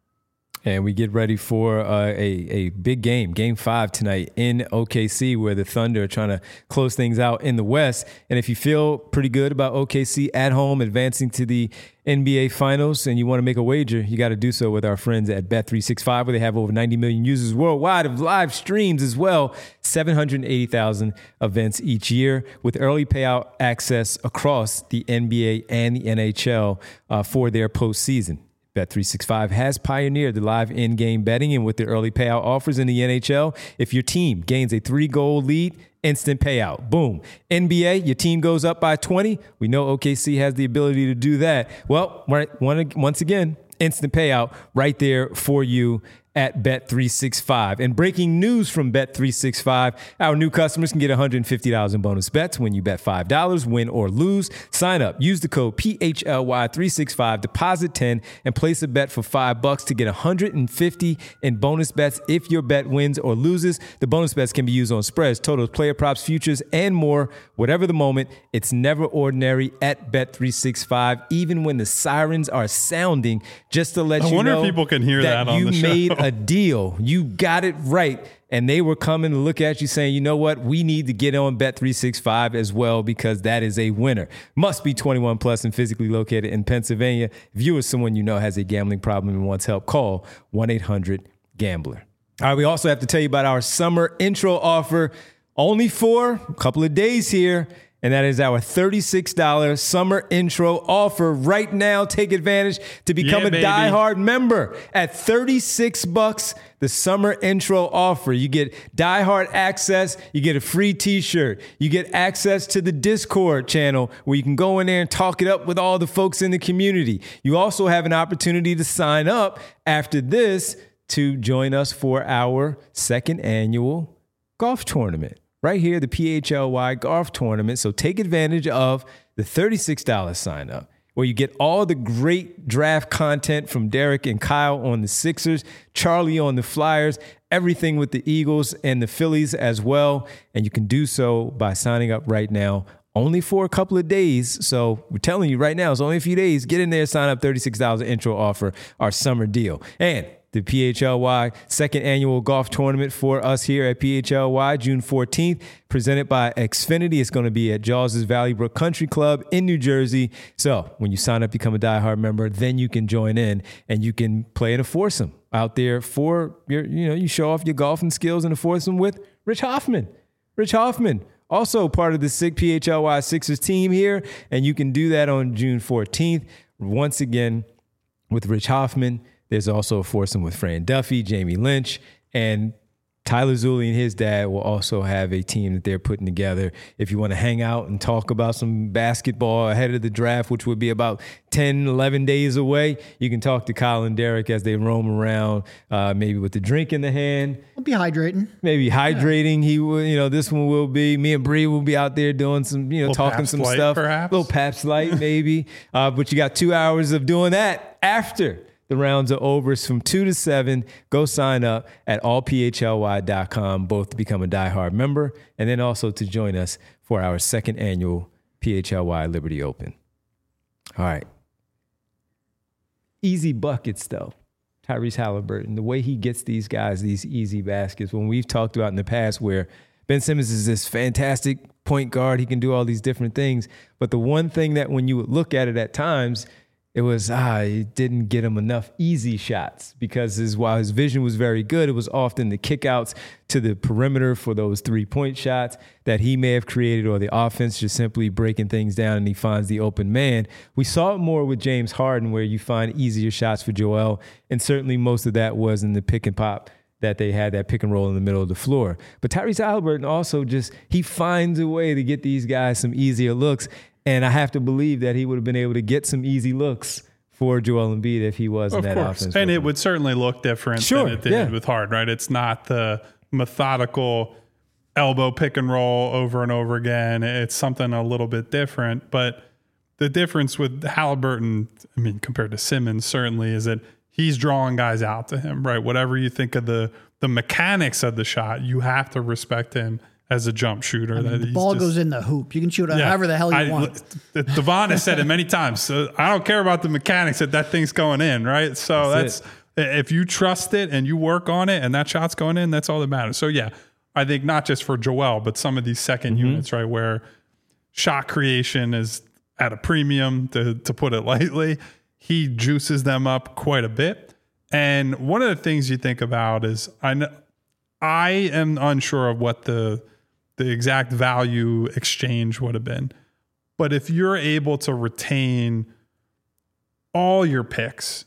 And we get ready for uh, a, a big game, game five tonight in O K C, where the Thunder are trying to close things out in the West. And if you feel pretty good about O K C at home advancing to the N B A Finals and you want to make a wager, you got to do so with our friends at Bet three sixty-five, where they have over ninety million users worldwide of live streams as well, seven hundred eighty thousand events each year with early payout access across the N B A and the N H L uh, for their postseason. Bet three sixty-five has pioneered the live in-game betting, and with the early payout offers in the N H L, if your team gains a three-goal lead, instant payout. Boom. N B A, your team goes up by twenty. We know O K C has the ability to do that. Well, right, once again, instant payout right there for you at Bet three sixty-five. And breaking news from Bet three sixty-five, our new customers can get one hundred fifty dollars in bonus bets when you bet five dollars, win or lose. Sign up, use the code P H L Y three sixty-five, deposit ten, and place a bet for five bucks to get one hundred fifty in bonus bets if your bet wins or loses. The bonus bets can be used on spreads, totals, player props, futures, and more. Whatever the moment, it's never ordinary at Bet three sixty-five, even when the sirens are sounding, just to let I you wonder know if people can hear that, that on you the show. made a deal. You got it right. And they were coming to look at you saying, you know what? We need to get on Bet three sixty-five as well because that is a winner. Must be twenty-one plus and physically located in Pennsylvania. If you or someone you know has a gambling problem and wants help, call one eight hundred gambler. All right, we also have to tell you about our summer intro offer, only for a couple of days here. And that is our thirty-six dollars summer intro offer right now. Take advantage to become Yeah, a baby. diehard member at thirty-six bucks. The summer intro offer. You get diehard access. You get a free t-shirt. You get access to the Discord channel where you can go in there and talk it up with all the folks in the community. You also have an opportunity to sign up after this to join us for our second annual golf tournament. Right here, the P H L Y golf tournament. So take advantage of the thirty-six dollars sign up, where you get all the great draft content from Derek and Kyle on the Sixers, Charlie on the Flyers, everything with the Eagles and the Phillies as well. And you can do so by signing up right now, only for a couple of days. So we're telling you right now, it's only a few days. Get in there, sign up, thirty-six dollars intro offer, our summer deal. And the P H L Y second annual golf tournament for us here at P H L Y, June fourteenth, presented by Xfinity. It's going to be at Jaws' Valley Brook Country Club in New Jersey. So when you sign up, become a diehard member, then you can join in and you can play in a foursome out there for your, you know, you show off your golfing skills in a foursome with Rich Hoffman. Rich Hoffman, also part of the sick P H L Y Sixers team here. And you can do that on June fourteenth. Once again, with Rich Hoffman. There's also a foursome with Fran Duffy, Jamie Lynch, and Tyler Zulli and his dad will also have a team that they're putting together. If you want to hang out and talk about some basketball ahead of the draft, which would be about ten, eleven days away, you can talk to Kyle and Derek as they roam around, uh, maybe with the drink in the hand. We'll be hydrating. Maybe hydrating. Yeah. He will, you know, this one will be, me and Bree will be out there doing some, you know, Little talking Pabst some Light, stuff. perhaps? Little Pabst Light, maybe. Uh, but you got two hours of doing that after the rounds are over. It's from two to seven. Go sign up at all p h l y dot com, both to become a diehard member and then also to join us for our second annual P H L Y Liberty Open. All right. Easy buckets, though. Tyrese Halliburton, the way he gets these guys, these easy baskets, when we've talked about in the past where Ben Simmons is this fantastic point guard, he can do all these different things. But the one thing that when you would look at it at times, it was, ah, it didn't get him enough easy shots because his, while his vision was very good, it was often the kickouts to the perimeter for those three-point shots that he may have created or the offense just simply breaking things down and he finds the open man. We saw it more with James Harden where you find easier shots for Joel, and certainly most of that was in the pick and pop that they had, that pick and roll in the middle of the floor. But Tyrese Halliburton also just, he finds a way to get these guys some easier looks. And I have to believe that he would have been able to get some easy looks for Joel Embiid if he was in Of that course. offense. And it would certainly look different Sure, than it did yeah. with Harden, right? It's not the methodical elbow pick and roll over and over again. It's something a little bit different. But the difference with Halliburton, I mean, compared to Simmons, certainly is that he's drawing guys out to him, right? Whatever you think of the the mechanics of the shot, you have to respect him as a jump shooter. I mean, that the he's ball just, goes in the hoop. You can shoot it Yeah. however the hell you I, want. Devon has said it many times. So I don't care about the mechanics that that thing's going in, right? So That's that's, if you trust it and you work on it and that shot's going in, that's all that matters. So yeah, I think not just for Joel, but some of these second Mm-hmm. units, right, where shot creation is at a premium, to to put it lightly. He juices them up quite a bit. And one of the things you think about is I know, I am unsure of what the the exact value exchange would have been. But if you're able to retain all your picks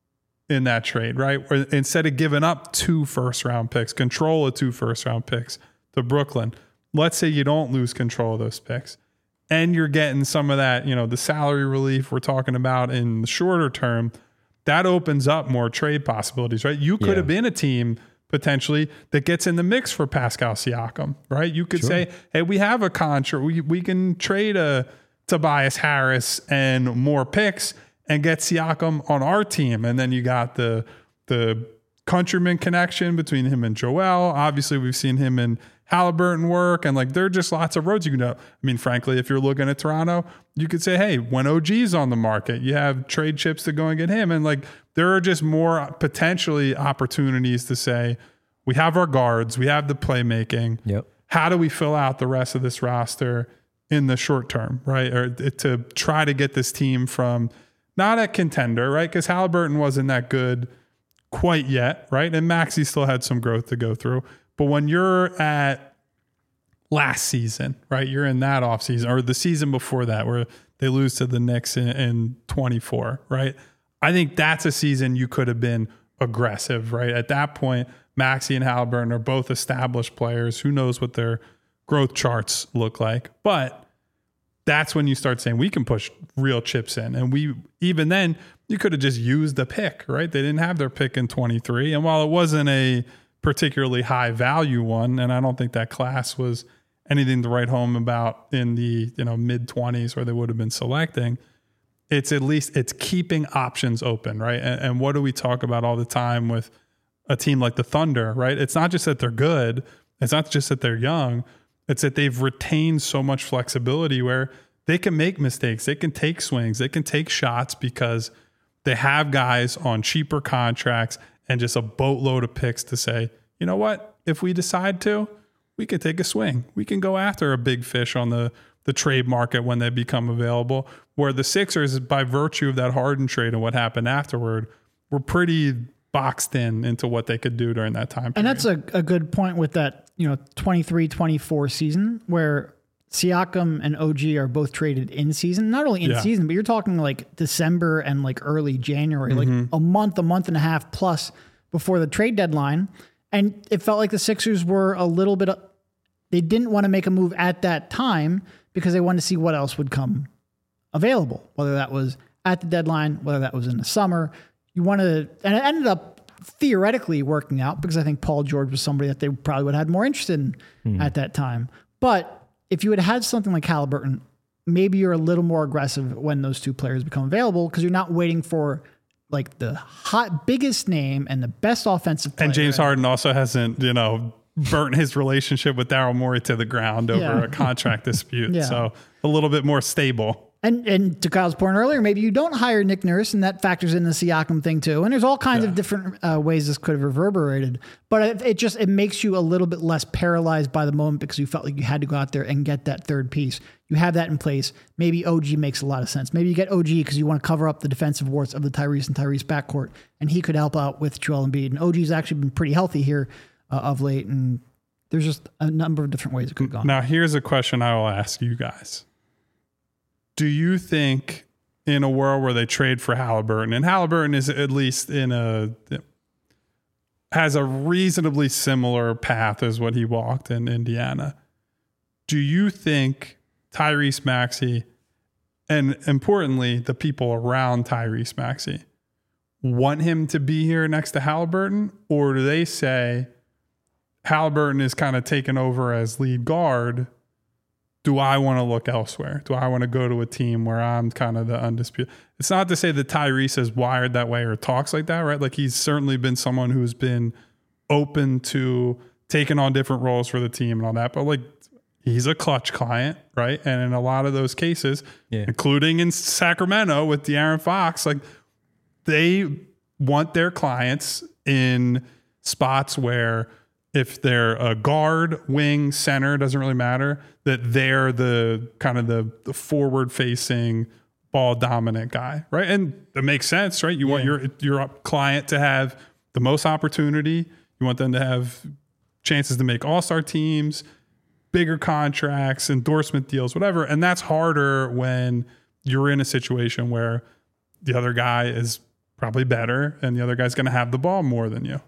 in that trade, right? Or instead of giving up two first round picks, control of two first round picks to Brooklyn, let's say you don't lose control of those picks and you're getting some of that, you know, the salary relief we're talking about in the shorter term, that opens up more trade possibilities, right? You could Yeah. have been a team potentially that gets in the mix for Pascal Siakam, right? You could Sure. say, hey, we have a contract. We, we can trade a Tobias Harris and more picks and get Siakam on our team. And then you got the the Countryman connection between him and Joel. Obviously, we've seen him in Halliburton work, and like there are just lots of roads you can go. I mean, frankly, if you're looking at Toronto, you could say, hey, when O G's on the market, you have trade chips to go and get him. And like there are just more potentially opportunities to say, we have our guards, we have the playmaking. Yep. How do we fill out the rest of this roster in the short term, right? Or to try to get this team from not a contender, right? Because Halliburton wasn't that good quite yet, right? And Maxey still had some growth to go through. But when you're at last season, right? You're in that offseason or the season before that where they lose to the Knicks in, in twenty-four, right? I think that's a season you could have been aggressive, right? At that point, Maxey and Halliburton are both established players. Who knows what their growth charts look like? But that's when you start saying we can push real chips in. And we, even then, you could have just used the pick, right? They didn't have their pick in twenty-three. And while it wasn't a particularly high value one, and I don't think that class was anything to write home about in the, you know, mid twenties where they would have been selecting, it's at least it's keeping options open, right? And, and what do we talk about all the time with a team like the Thunder, right? It's not just that they're good. It's not just that they're young. It's that they've retained so much flexibility where they can make mistakes. They can take swings. They can take shots because they have guys on cheaper contracts and just a boatload of picks to say, you know what? If we decide to, we can take a swing. We can go after a big fish on the, the trade market when they become available. Where the Sixers, by virtue of that Harden trade and what happened afterward, were pretty boxed in into what they could do during that time period. And that's a, a good point with that, you know, twenty-three twenty-four season where Siakam and O G are both traded in season, not only in Yeah. season, but you're talking like December and like early January, Mm-hmm. like a month, a month and a half plus before the trade deadline. And it felt like the Sixers were a little bit, they didn't want to make a move at that time because they wanted to see what else would come available, whether that was at the deadline, whether that was in the summer. You wanted to, and it ended up theoretically working out because I think Paul George was somebody that they probably would have had more interest in Hmm. at that time. But if you had had something like Halliburton, maybe you're a little more aggressive when those two players become available because you're not waiting for like the hot biggest name and the best offensive player. And James Harden also hasn't, you know, burnt his relationship with Daryl Morey to the ground over Yeah. a contract dispute. Yeah. So a little bit more stable. And and to Kyle's point earlier, maybe you don't hire Nick Nurse, and that factors in the Siakam thing too. And there's all kinds Yeah. of different uh, ways this could have reverberated. But it, it just it makes you a little bit less paralyzed by the moment because you felt like you had to go out there and get that third piece. You have that in place. Maybe O G makes a lot of sense. Maybe you get O G because you want to cover up the defensive warts of the Tyrese and Tyrese backcourt, and he could help out with Joel Embiid. And O G's actually been pretty healthy here uh, of late, and there's just a number of different ways it could have gone. Now, here's a question I will ask you guys. Do you think in a world where they trade for Halliburton, and Halliburton is at least in a, has a reasonably similar path as what he walked in Indiana, do you think Tyrese Maxey, and importantly, the people around Tyrese Maxey, want him to be here next to Halliburton? Or do they say Halliburton is kind of taken over as lead guard? Do I want to look elsewhere? Do I want to go to a team where I'm kind of the undisputed? It's not to say that Tyrese is wired that way or talks like that, right? Like he's certainly been someone who's been open to taking on different roles for the team and all that. But like, he's a clutch client, right? And in a lot of those cases, yeah. including in Sacramento with De'Aaron Fox, like they want their clients in spots where if they're a guard, wing, center, doesn't really matter, that they're the kind of the, the forward facing ball dominant guy, right? And it makes sense, right? You yeah. want your your client to have the most opportunity. You want them to have chances to make all-star teams, bigger contracts, endorsement deals, whatever. And that's harder when you're in a situation where the other guy is probably better and the other guy's going to have the ball more than you.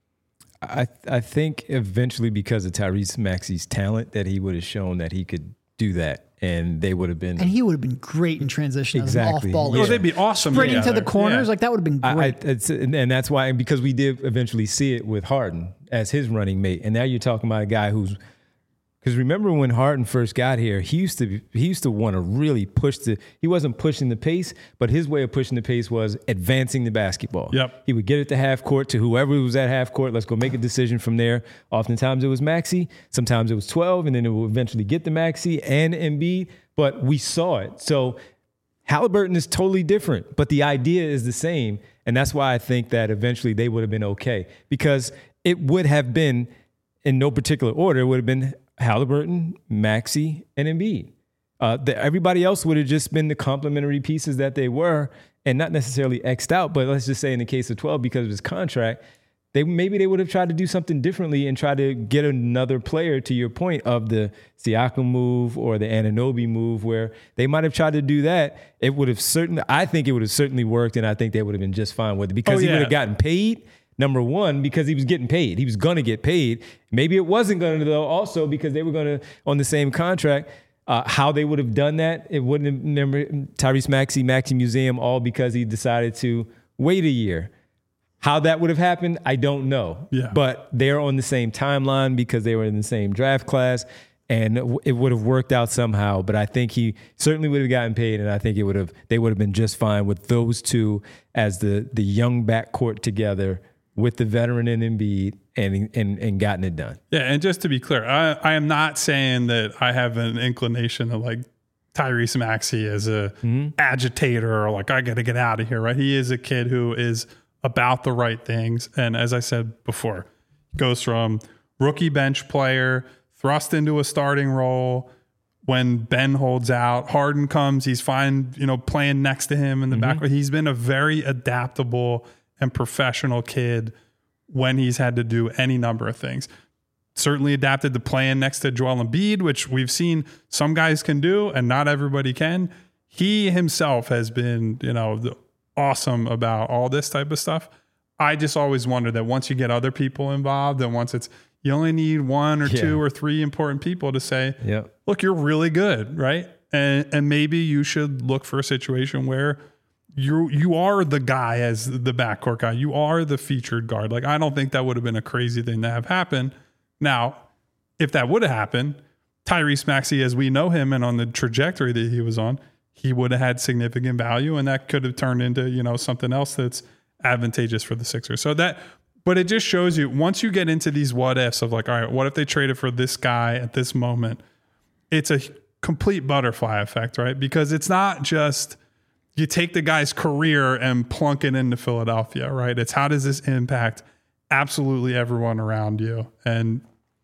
I I think eventually, because of Tyrese Maxey's talent, that he would have shown that he could do that, and they would have been. And he would have been great in transition exactly. as an off-ball. Yeah. Oh, they'd be awesome. Sprinting together. to the corners, yeah. like that would have been great. I, I, it's, and that's why, because we did eventually see it with Harden as his running mate, and now you're talking about a guy who's. Because remember when Harden first got here, he used to he used to want to really push the. He wasn't pushing the pace, but his way of pushing the pace was advancing the basketball. Yep. He would get it to half court to whoever was at half court. Let's go make a decision from there. Oftentimes it was Maxey. Sometimes it was twelve, and then it would eventually get to Maxey and Embiid. But we saw it. So Halliburton is totally different, but the idea is the same, and that's why I think that eventually they would have been okay, because it would have been in no particular order. It would have been Halliburton, Maxey, and Embiid. Uh, the, everybody else would have just been the complementary pieces that they were, and not necessarily X'd out. But let's just say in the case of twelve, because of his contract, they maybe they would have tried to do something differently and try to get another player, to your point, of the Siakam move or the Anunoby move, where they might have tried to do that. It would have certainly, I think it would have certainly worked, and I think they would have been just fine with it, because oh, he yeah. would have gotten paid. Number one, because he was getting paid. He was going to get paid. Maybe it wasn't going to, though, also because they were going to, on the same contract. Uh, how they would have done that, it wouldn't have, remember, Tyrese Maxey, Maxey Museum, all because he decided to wait a year. How that would have happened, I don't know. Yeah. But they're on the same timeline because they were in the same draft class, and it would have worked out somehow. But I think he certainly would have gotten paid, and I think it would have, they would have been just fine with those two as the the young backcourt together, with the veteran in Embiid, and, and and gotten it done. Yeah, and just to be clear, I, I am not saying that I have an inclination to like Tyrese Maxey as a mm-hmm. agitator or like, I got to get out of here, right? He is a kid who is about the right things. And as I said before, goes from rookie bench player, thrust into a starting role. When Ben holds out, Harden comes, he's fine, you know, playing next to him in the mm-hmm. back. He's been a very adaptable and professional kid when he's had to do any number of things. Certainly adapted to playing next to Joel Embiid, which we've seen some guys can do and not everybody can. He himself has been, you know, the, awesome about all this type of stuff. I just always wonder that once you get other people involved, and once it's, you only need one or yeah. two or three important people to say, yep. look, you're really good, right? And and maybe you should look for a situation where you you are the guy as the backcourt guy. You are the featured guard. Like, I don't think that would have been a crazy thing to have happen. Now, if that would have happened, Tyrese Maxey, as we know him and on the trajectory that he was on, he would have had significant value, and that could have turned into, you know, something else that's advantageous for the Sixers. So that, but it just shows you, once you get into these what ifs of like, all right, what if they traded for this guy at this moment? It's a complete butterfly effect, right? Because it's not just you take the guy's career and plunk it into Philadelphia, right? It's how does this impact absolutely everyone around you? And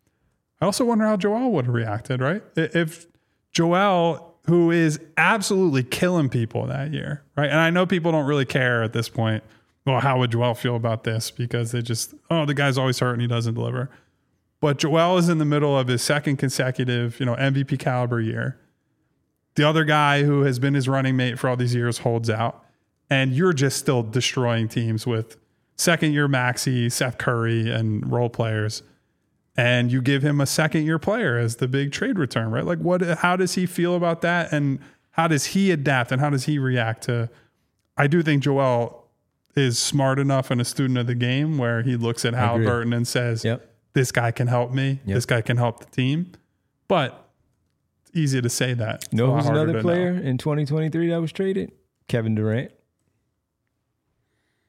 I also wonder how Joel would have reacted, right? If Joel, who is absolutely killing people that year, right? And I know people don't really care at this point. Well, how would Joel feel about this? Because they just, oh, the guy's always hurt and he doesn't deliver. But Joel is in the middle of his second consecutive, you know, M V P caliber year. The other guy who has been his running mate for all these years holds out, and you're just still destroying teams with second year Maxey, Seth Curry, and role players. And you give him a second year player as the big trade return, right? Like, what, how does he feel about that? And how does he adapt and how does he react to, I do think Joel is smart enough and a student of the game where he looks at Halliburton and says, yep. this guy can help me. Yep. This guy can help the team. But it's easy to say that. You know who's another player know. in twenty twenty-three that was traded? Kevin Durant.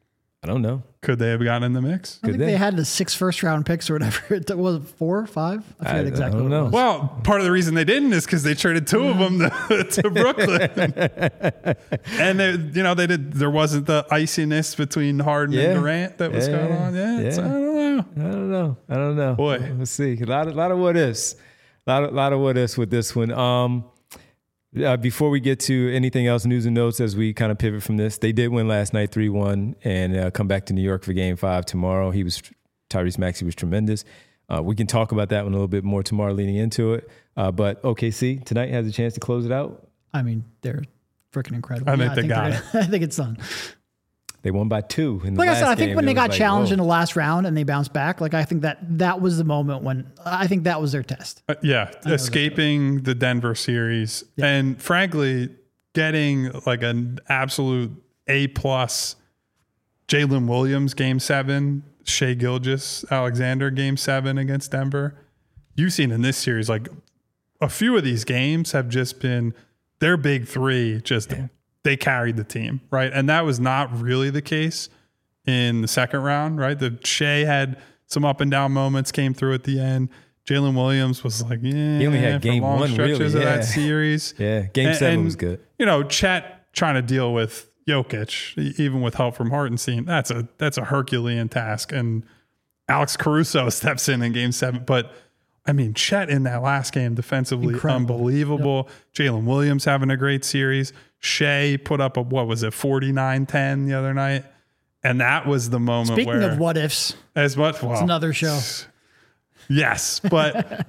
I don't know. Could they have gotten in the mix? I think they? they had the six first round picks or whatever. It was four or five. I forget I- exactly. I don't what it know. was. Well, part of the reason they didn't is because they traded two of them to, to Brooklyn, and they, you know, they did. There wasn't the iciness between Harden Yeah. and Durant that was Yeah. going on. Yeah, it's- Yeah. I don't know. I don't know. I don't know. Boy. Let's see. A lot of, lot of what ifs. A lot of, lot of what ifs with this one. Um, uh, before we get to anything else, news and notes as we kind of pivot from this, they did win last night three one and uh, come back to New York for game five tomorrow. He was, Tyrese Maxey was tremendous. Uh, we can talk about that one a little bit more tomorrow leading into it. Uh, but O K C tonight has a chance to close it out. I mean, they're freaking incredible. I think they got they're gonna- I think it's done. They won by two. In the Like I last said, I think game. when It they was got like, challenged whoa. in the last round and they bounced back, like I think that that was the moment when I think that was their test. Uh, yeah, escaping the Denver series, Yeah. and frankly, getting like an absolute A plus. Jalen Williams game seven, Shea Gilgeous Alexander game seven against Denver. You've seen in this series, like a few of these games have just been their big three. Just they carried the team, right? And that was not really the case in the second round, right? The Shea had some up and down moments, came through at the end. Jalen Williams was like, yeah, He only had for game long one, stretches really, of yeah. that series. Yeah, game And- seven and, was good. You know, Chet trying to deal with Jokic, e- even with help from Hartenstein, that's a that's a Herculean task. And Alex Caruso steps in in game seven. But, I mean, Chet in that last game defensively, Incredible. unbelievable. Jalen Williams having a great series. Shea put up a, what was it, forty-nine ten the other night. And that was the moment Speaking where, of what ifs, as much, well, it's another show. yes, but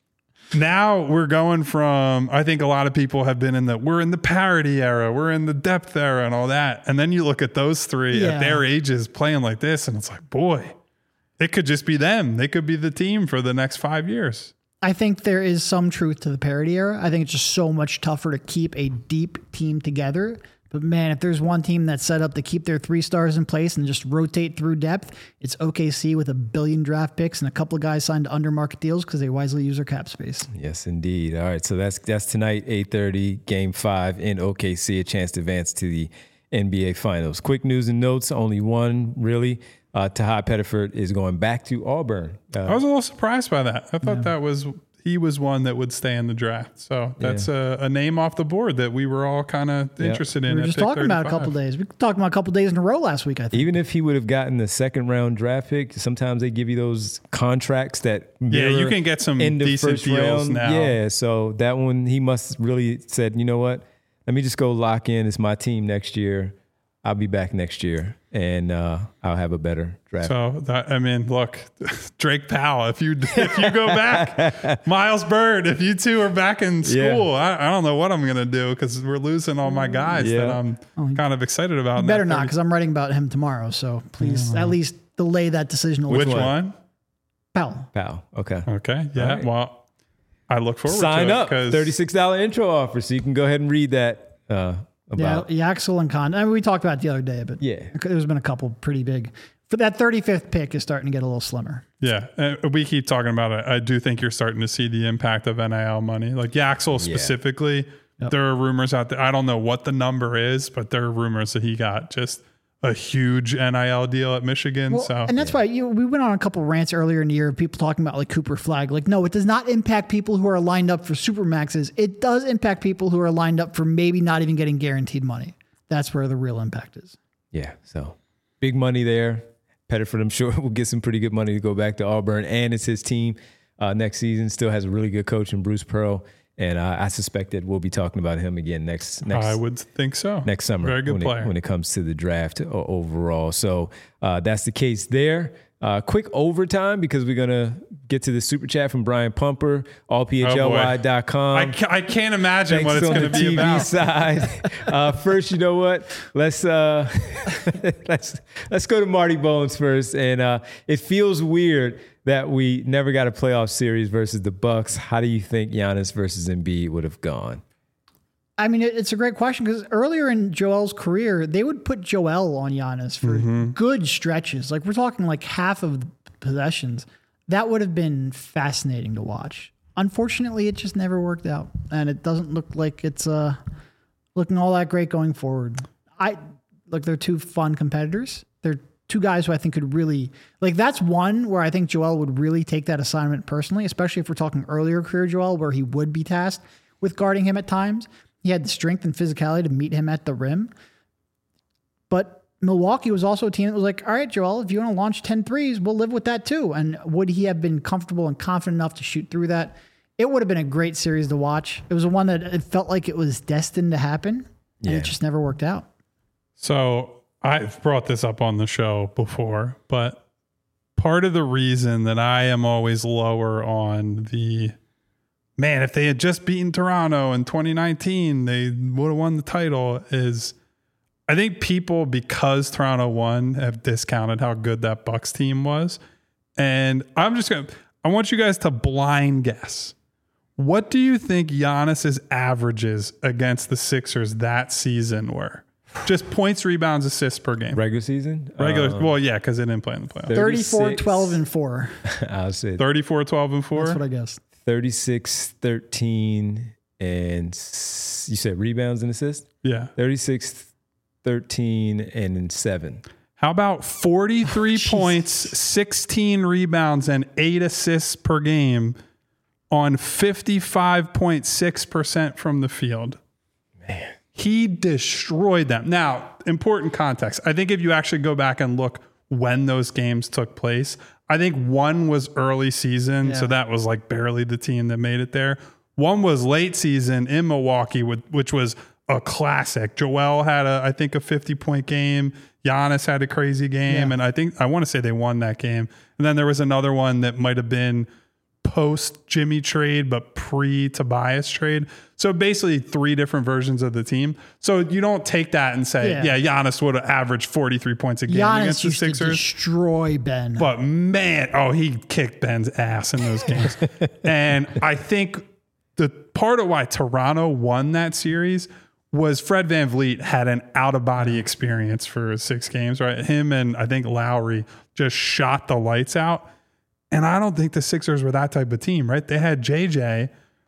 now we're going from, I think a lot of people have been in the, we're in the parity era, we're in the depth era and all that. And then you look at those three Yeah. at their ages playing like this, and it's like, boy, it could just be them. They could be the team for the next five years. I think there is some truth to the parity era. I think it's just so much tougher to keep a deep team together. But man, if there's one team that's set up to keep their three stars in place and just rotate through depth, it's O K C with a billion draft picks and a couple of guys signed to under market deals because they wisely use their cap space. Yes, indeed. All right, so that's that's tonight, eight thirty, Game Five in O K C, a chance to advance to the N B A Finals. Quick news and notes, only one really. Uh, Taha Pettiford is going back to Auburn. Uh, I was a little surprised by that. I thought that was, he was one that would stay in the draft. So that's a, a name off the board that we were all kind of interested in. We were at just pick talking about it a thirty-five. couple of days. We talked about a couple of days in a row last week, I think. even if he would have gotten the second round draft pick, sometimes they give you those contracts that Yeah, you mirror can get some end of decent first deals round. now. Yeah, so that one he must really said, you know what? Let me just go lock in. It's my team next year. I'll be back next year, and uh, I'll have a better draft. So that, I mean, look, Drake Powell. If you if you go back, Miles Bird. If you two are back in school, Yeah. I, I don't know what I'm gonna do because we're losing all my guys that Yeah. I'm kind of excited about. in Better that not, thirty because I'm writing about him tomorrow. So please, at least delay that decision a Which little. one? Powell. Pal, okay. Okay, yeah. All right. Well, I look forward Sign to up. it thirty-six dollars intro offer, so you can go ahead and read that uh, Yeah, about. Yaxel and Con. I mean, we talked about it the other day, but Yeah. there's been a couple pretty big. But that thirty-fifth pick is starting to get a little slimmer. Yeah, uh, we keep talking about it. I do think you're starting to see the impact of N I L money, like Yaxel specifically. Yep. There are rumors out there. I don't know what the number is, but there are rumors that he got just a huge N I L deal at Michigan. Well, so and that's why you, we went on a couple rants earlier in the year of people talking about like Cooper Flag. Like, no, it does not impact people who are lined up for Supermaxes. It does impact people who are lined up for maybe not even getting guaranteed money. That's where the real impact is. Yeah, so big money there. Pettiford, I'm sure, will get some pretty good money to go back to Auburn, and it's his team uh, next season. Still has a really good coach in Bruce Pearl, and uh, I suspect that we'll be talking about him again next next I would think so. next summer. Very good when player. It, when it comes to the draft o- overall. So uh, that's the case there. Uh, quick overtime because we're going to get to the super chat from Brian Pumper, all P H L Y dot com. I, ca- I can't imagine what Thanks it's on going the to be T V about. side. Uh, first, you know what? Let's uh, let's let's go to Marty Bones first. And uh, it feels weird that we never got a playoff series versus the Bucks. How do you think Giannis versus Embiid would have gone? I mean, it, it's a great question because earlier in Joel's career, they would put Joel on Giannis for good stretches. Like we're talking like half of the possessions. That would have been fascinating to watch. Unfortunately, it just never worked out, and it doesn't look like it's uh, looking all that great going forward. I look, they're two fun competitors. They're two guys who I think could really, like, that's one where I think Joel would really take that assignment personally, especially if we're talking earlier career Joel, where he would be tasked with guarding him at times. He had the strength and physicality to meet him at the rim. But Milwaukee was also a team that was like, all right, Joel, if you want to launch ten threes, we'll live with that too. And would he have been comfortable and confident enough to shoot through that? It would have been a great series to watch. It was a one that it felt like it was destined to happen, and Yeah. it just never worked out. So I've brought this up on the show before, but part of the reason that I am always lower on the, man, if they had just beaten Toronto in twenty nineteen, they would have won the title, is I think people, because Toronto won, have discounted how good that Bucks team was. And I'm just going to, I want you guys to blind guess. What do you think Giannis's averages against the Sixers that season were? Just points, rebounds, assists per game. Regular season? Regular, Um, well, yeah, because they didn't play in the playoffs. thirty-four, thirty-six twelve, and four. I'll say thirty-four, twelve, and four. That's what I guessed. thirty-six, thirteen, and s- you said rebounds and assists? Yeah. thirty-six, thirteen, and seven. How about forty-three points, sixteen rebounds, and eight assists per game on fifty-five point six percent from the field? Man. He destroyed them. Now, important context. I think if you actually go back and look when those games took place, I think one was early season, Yeah. so that was like barely the team that made it there. One was late season in Milwaukee, with, which was a classic. Joel had, a, I think, a fifty-point game. Giannis had a crazy game, Yeah. and I think I want to say they won that game. And then there was another one that might have been post Jimmy trade, but pre Tobias trade. So basically three different versions of the team. So you don't take that and say, Yeah. yeah, Giannis would have averaged forty-three points a game Giannis against the used to Sixers. destroy Ben. But man, oh, he kicked Ben's ass in those games. And I think the part of why Toronto won that series was Fred VanVleet had an out of body experience for six games, right? Him and I think Lowry just shot the lights out. And I don't think the Sixers were that type of team, right? They had J J,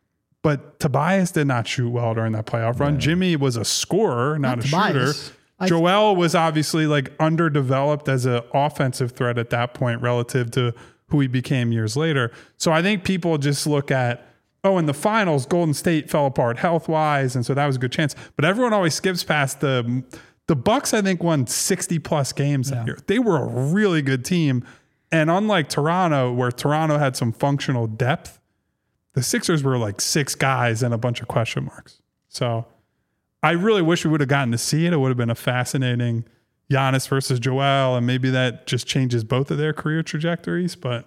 but Tobias did not shoot well during that playoff run. Jimmy was a scorer, not, Not a Tobias. shooter. I- Joel was obviously like underdeveloped as an offensive threat at that point relative to who he became years later. So I think people just look at, oh, in the finals, Golden State fell apart health-wise, and so that was a good chance. But everyone always skips past the the Bucks, I think, won sixty plus games that year. They were a really good team. And unlike Toronto, where Toronto had some functional depth, the Sixers were like six guys and a bunch of question marks. So I really wish we would have gotten to see it. It would have been a fascinating Giannis versus Joel, and maybe that just changes both of their career trajectories, but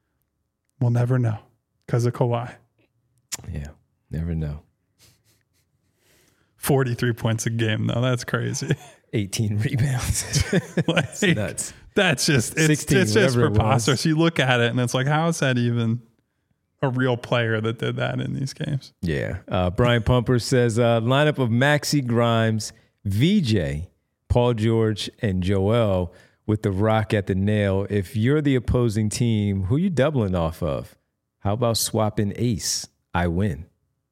we'll never know because of Kawhi. Yeah, never know. forty-three points a game, though. That's crazy. eighteen rebounds. Like, That's nuts. That's just, it's, sixteen, it's just whatever it was. preposterous. You look at it and it's like, how is that even a real player that did that in these games? Yeah. Uh, Brian Pumper says uh, lineup of Maxey, Grimes, V J, Paul George, and Joel with the rock at the nail. If you're the opposing team, who you doubling off of? How about swapping Ace? I win.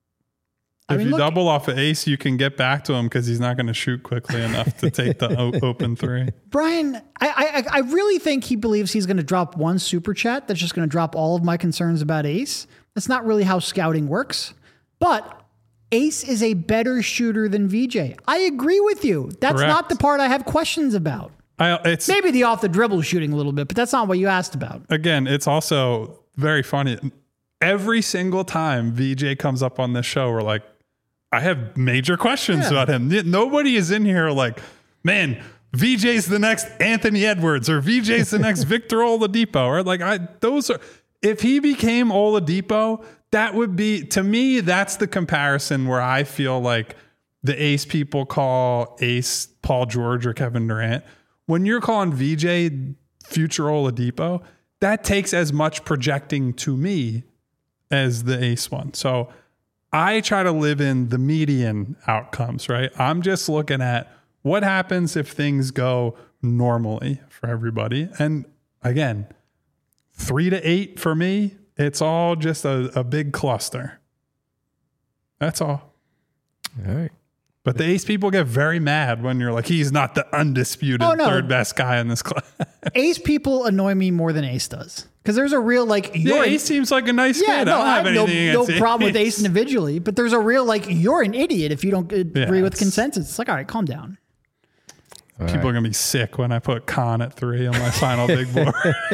I If mean, you look- double off of Ace, you can get back to him because he's not going to shoot quickly enough to take the o- open three. Brian, I, I I really think he believes he's going to drop one super chat that's just going to drop all of my concerns about Ace. That's not really how scouting works. But Ace is a better shooter than V J. I agree with you. That's Correct. not the part I have questions about. I, it's Maybe the off the dribble shooting a little bit, but that's not what you asked about. again, it's also very funny. Every single time V J comes up on this show, we're like, I have major questions Yeah. about him. Nobody is in here like, man, V J's the next Anthony Edwards or V J's the next Victor Oladipo. Or like, I those are. If he became Oladipo, that would be, to me, that's the comparison where I feel like the Ace people call Ace Paul George or Kevin Durant. When you're calling V J future Oladipo, that takes as much projecting to me as the Ace one. So I try to live in the median outcomes, right? I'm just looking at what happens if things go normally for everybody. And again, three to eight for me, it's all just a, a big cluster. That's all. All right. But the ace people get very mad when you're like, he's not the undisputed Oh, no. third best guy in this class. Ace people annoy me more than Ace does. Because there's a real, like, Yeah, you're an- Ace seems like a nice yeah, kid. no, I don't I have have no, anything no against problem with Ace. Ace individually, but there's a real, like, you're an idiot if you don't agree Yeah, with it's- consensus. It's like, all right, calm down. People are going to be sick when I put Khan at three on my final big board.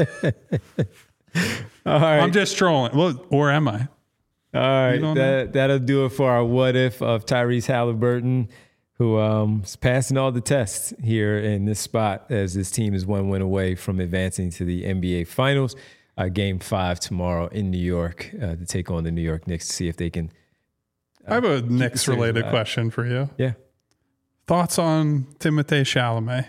All right. I'm just trolling. Well, or am I? All right, don't that, that'll do it for our what if of Tyrese Halliburton, who um, is passing all the tests here in this spot as this team is one win away from advancing to the N B A Finals. Uh, game five tomorrow in New York uh, to take on the New York Knicks to see if they can. Uh, I have a Knicks series related alive. question for you. Yeah. Thoughts on Timothée Chalamet?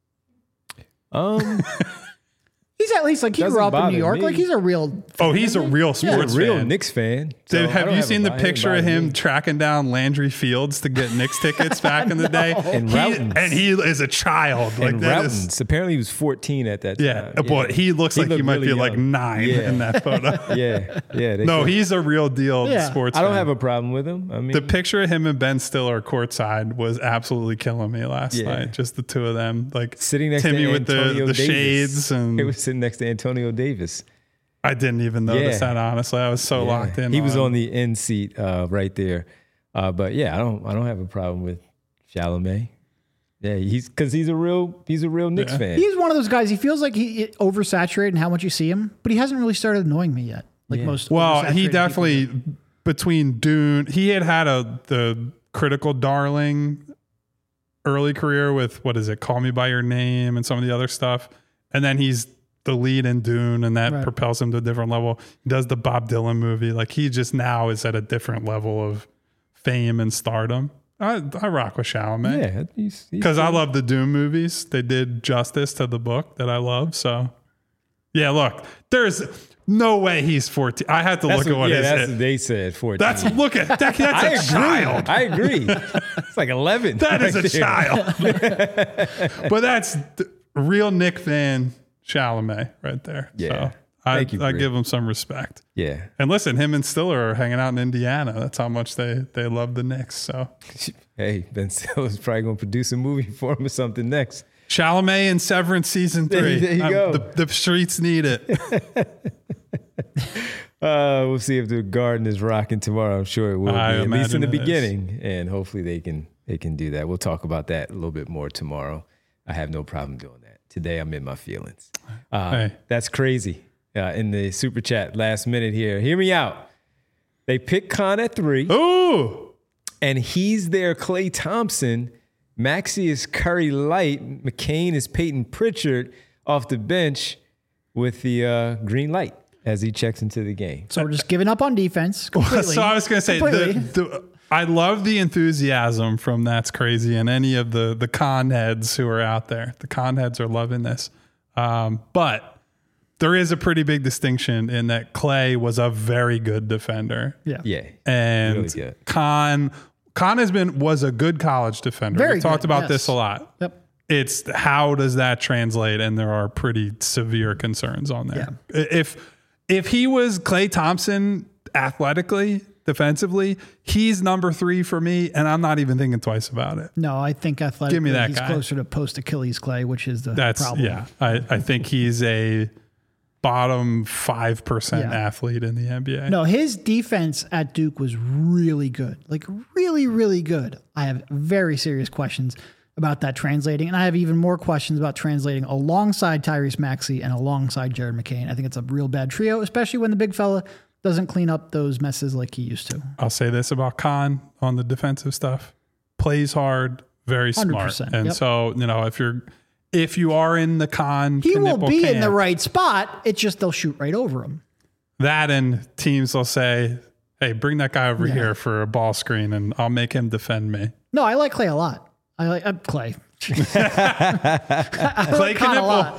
Um, He's at least, like, he Doesn't grew up in bother New York. me. Like, he's a real. Oh, he's a real he's sports a real fan. Knicks fan. so Dave, I have don't you a seen the bi- it doesn't picture of bother him me. tracking down Landry Fields to get Knicks tickets back in the day? And He- Routens. and he is a child. Like And that Routens. is, Apparently, he was fourteen at that yeah, time. boy, he looks like he looked might be really like young. nine Yeah. in that photo. Yeah, yeah. they No, said- he's a real deal Yeah. sports I don't fan. have a problem with him. I mean, The picture of him and Ben Stiller courtside was absolutely killing me last Yeah. night. Just the two of them, like sitting next Timmy to with Antonio the, the Davis. shades, and He was sitting next to Antonio Davis. I didn't even notice Yeah. that. Honestly, I was so Yeah. locked in. He was on the end seat uh, right there. Uh, but yeah, I don't I don't have a problem with Chalamet. Yeah, he's because he's a real he's a real Knicks Yeah. fan. He's one of those guys. He feels like he it oversaturated in how much you see him, but he hasn't really started annoying me yet. Like Yeah. most. Well, oversaturated he people definitely do. between Dune. He had had a the critical darling early career with what is it? Call Me by Your Name and some of the other stuff, and then he's the lead in Dune, and that Right. propels him to a different level. He does the Bob Dylan movie. Like he just now is at a different level of fame and stardom. I, I rock with Chalamet. Yeah, he's Because I love the Doom movies. They did justice to the book that I love. So, yeah, look, there's no way he's fourteen. I had to that's look at what yeah, his that's hit- what they said. Fourteen. That's look at that. That's I a agree. child. I agree. It's like eleven. That is right a there. child. But that's the real Nick fan Chalamet right there. Yeah. So I, Thank you, I Britt. give him some respect. Yeah. And listen, him and Stiller are hanging out in Indiana. That's how much they they love the Knicks. So Hey, Ben Stiller's probably gonna produce a movie for him or something next. Chalamet and Severance season There- three. there you Um, go. The, the streets need it. Uh, we'll see if the Garden is rocking tomorrow. I'm sure it will I be, at least in imagine the it is. beginning, and hopefully they can they can do that. We'll talk about that a little bit more tomorrow. I have no problem doing that. Today I'm in my feelings. Uh, Hey. That's crazy. Uh, in the super chat last minute here, hear me out. They pick Khan at three, Ooh. and he's their Klay Thompson. Maxey is Curry Light. McCain is Peyton Pritchard off the bench with the uh, green light as he checks into the game. So we're just giving up on defense completely. So I was going to say, the, Completely. the, I love the enthusiasm from That's Crazy and any of the the con heads who are out there. The con heads are loving this. Um, but there is a pretty big distinction in that Klay was a very good defender. yeah. Yeah. And Really good. Con Con has been was a good college defender. Very we talked good, about yes. this a lot. Yep. It's how does that translate? And there are pretty severe concerns on there. If if he was Klay Thompson athletically, defensively, he's number three for me, and I'm not even thinking twice about it. No, I think athletically Give me that he's guy. closer to post Achilles Clay, which is the That's problem. yeah. I, I think he's a bottom five percent Yeah. athlete in the N B A. No, his defense at Duke was really good. Like really, really good. I have very serious questions about that translating. And I have even more questions about translating alongside Tyrese Maxey and alongside Jared McCain. I think it's a real bad trio, especially when the big fella doesn't clean up those messes like he used to. I'll say this about Khan on the defensive stuff. Plays hard, very smart. one hundred percent, And yep. so, you know, if you're if you are in the Khan He will Knipple be in camp, the right spot. It's just they'll shoot right over him. that and teams will say, hey, bring that guy over Yeah. here for a ball screen and I'll make him defend me. No, I like Clay a lot. I like uh, Clay. I Clay like Khan a lot.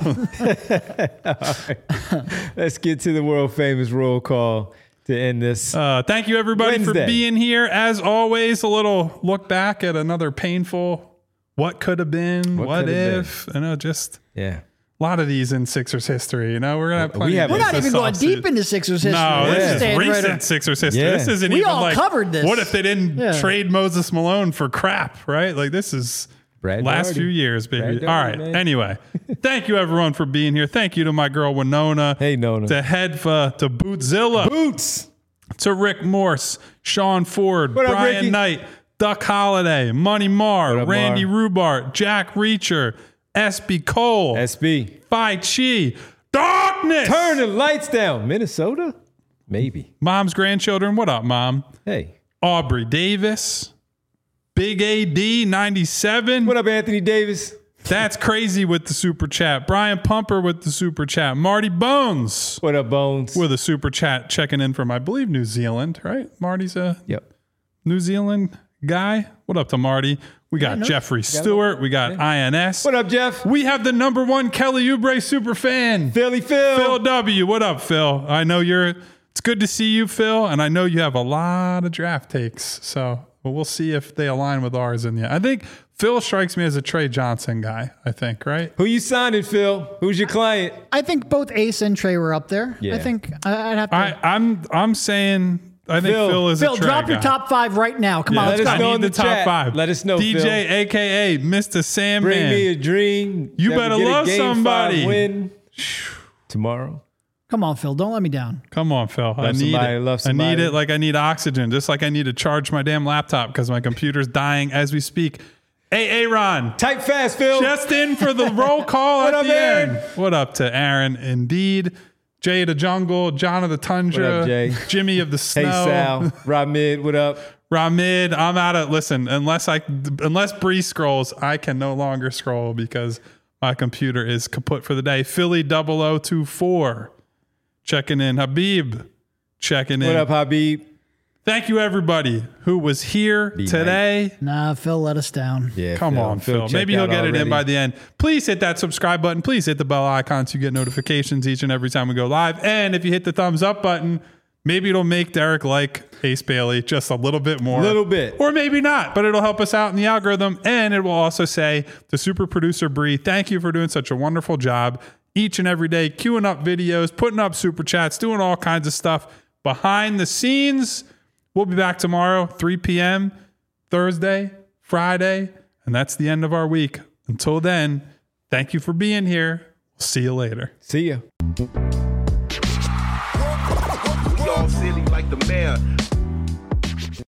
Knipple. Let's get to the world famous roll call to end this. Uh, thank you, everybody, Wednesday. for being here. As always, a little look back at another painful what could have been, What what, could have if. I know, just yeah. A lot of these in Sixers history. You know, we're gonna have plenty We of have- We're these not this even going offseason. deep into Sixers history. No, We're this is staying right recent around- Sixers history. Yeah. This isn't We even all like covered this. what if they didn't Yeah. trade Moses Malone for crap, right? Like this is Brad last Daugherty. few years, baby. Brad All Daugherty, right. man. Anyway, thank you everyone for being here. Thank you to my girl Winona. Hey, Nona. To Hedfa, to Bootzilla, Boots. to Rick Morse, Sean Ford, What up, Brian Ricky? Knight, Duck Holiday, Money Marr, What up, Randy Marr? Rubart, Jack Reacher, S B Cole, S B. Phi Chi, Darkness. Turn the lights down. Minnesota? Maybe. Mom's grandchildren. What up, Mom? Hey. Aubrey Davis, Big A D ninety-seven. What up, Anthony Davis? That's crazy with the super chat. Brian Pumper with the super chat. Marty Bones What up, Bones? with a super chat checking in from, I believe, New Zealand, right? Marty's a Yep. New Zealand guy. What up to Marty? We got no, Jeffrey Stewart. We got I N S. What up, Jeff? We have the number one Kelly Oubre super fan. Philly Phil. Phil W. What up, Phil? I know you're, it's good to see you, Phil. And I know you have a lot of draft takes. So well, we'll see if they align with ours in the end. I think Phil strikes me as a Trey Johnson guy, I think, right? Who you signing, Phil? Who's your client? I think both Ace and Trey were up there. Yeah. I think I- I'd have to. I, I'm I'm saying I think Phil. Phil, is Phil, a Trey drop your guy. top five right now. Come Yeah, on, Let let's us go. know I in need the the top chat. five. Let us know, D J, Phil. A K A Mister Sandman. Bring me a dream. You that we better get a love game somebody. five Win tomorrow. Come on, Phil. Don't let me down. Come on, Phil. I Love need somebody, it. love I need somebody. it like I need oxygen, just like I need to charge my damn laptop because my computer's dying as we speak. Hey, Aaron. Type fast, Phil. Just in for the roll call What at up, the Aaron? end. What up to Aaron? Indeed. Jay the Jungle, John of the Tundra, What up, Jay? Jimmy of the Hey, Snow, Sal. Rob Mid, what up? Ramid. I'm out of listen. Unless I, unless Bree scrolls, I can no longer scroll because my computer is kaput for the day. Philly double oh two four, checking in. Habib, checking in. What up, Habib? Thank you, everybody who was here Be today. Nah, Phil let us down. Yeah, Come on, Phil. checked Maybe he'll out get it in already. by the end. Please hit that subscribe button. Please hit the bell icon so you get notifications each and every time we go live. And if you hit the thumbs up button, maybe it'll make Derek like Ace Bailey just a little bit more. Little bit. Or maybe not, but it'll help us out in the algorithm. And it will also say to super producer Bree, thank you for doing such a wonderful job each and every day, queuing up videos, putting up super chats, doing all kinds of stuff behind the scenes. We'll be back tomorrow, three p.m., Thursday, Friday, and that's the end of our week. Until then, thank you for being here. We'll see you later. See ya. We all silly like the mayor.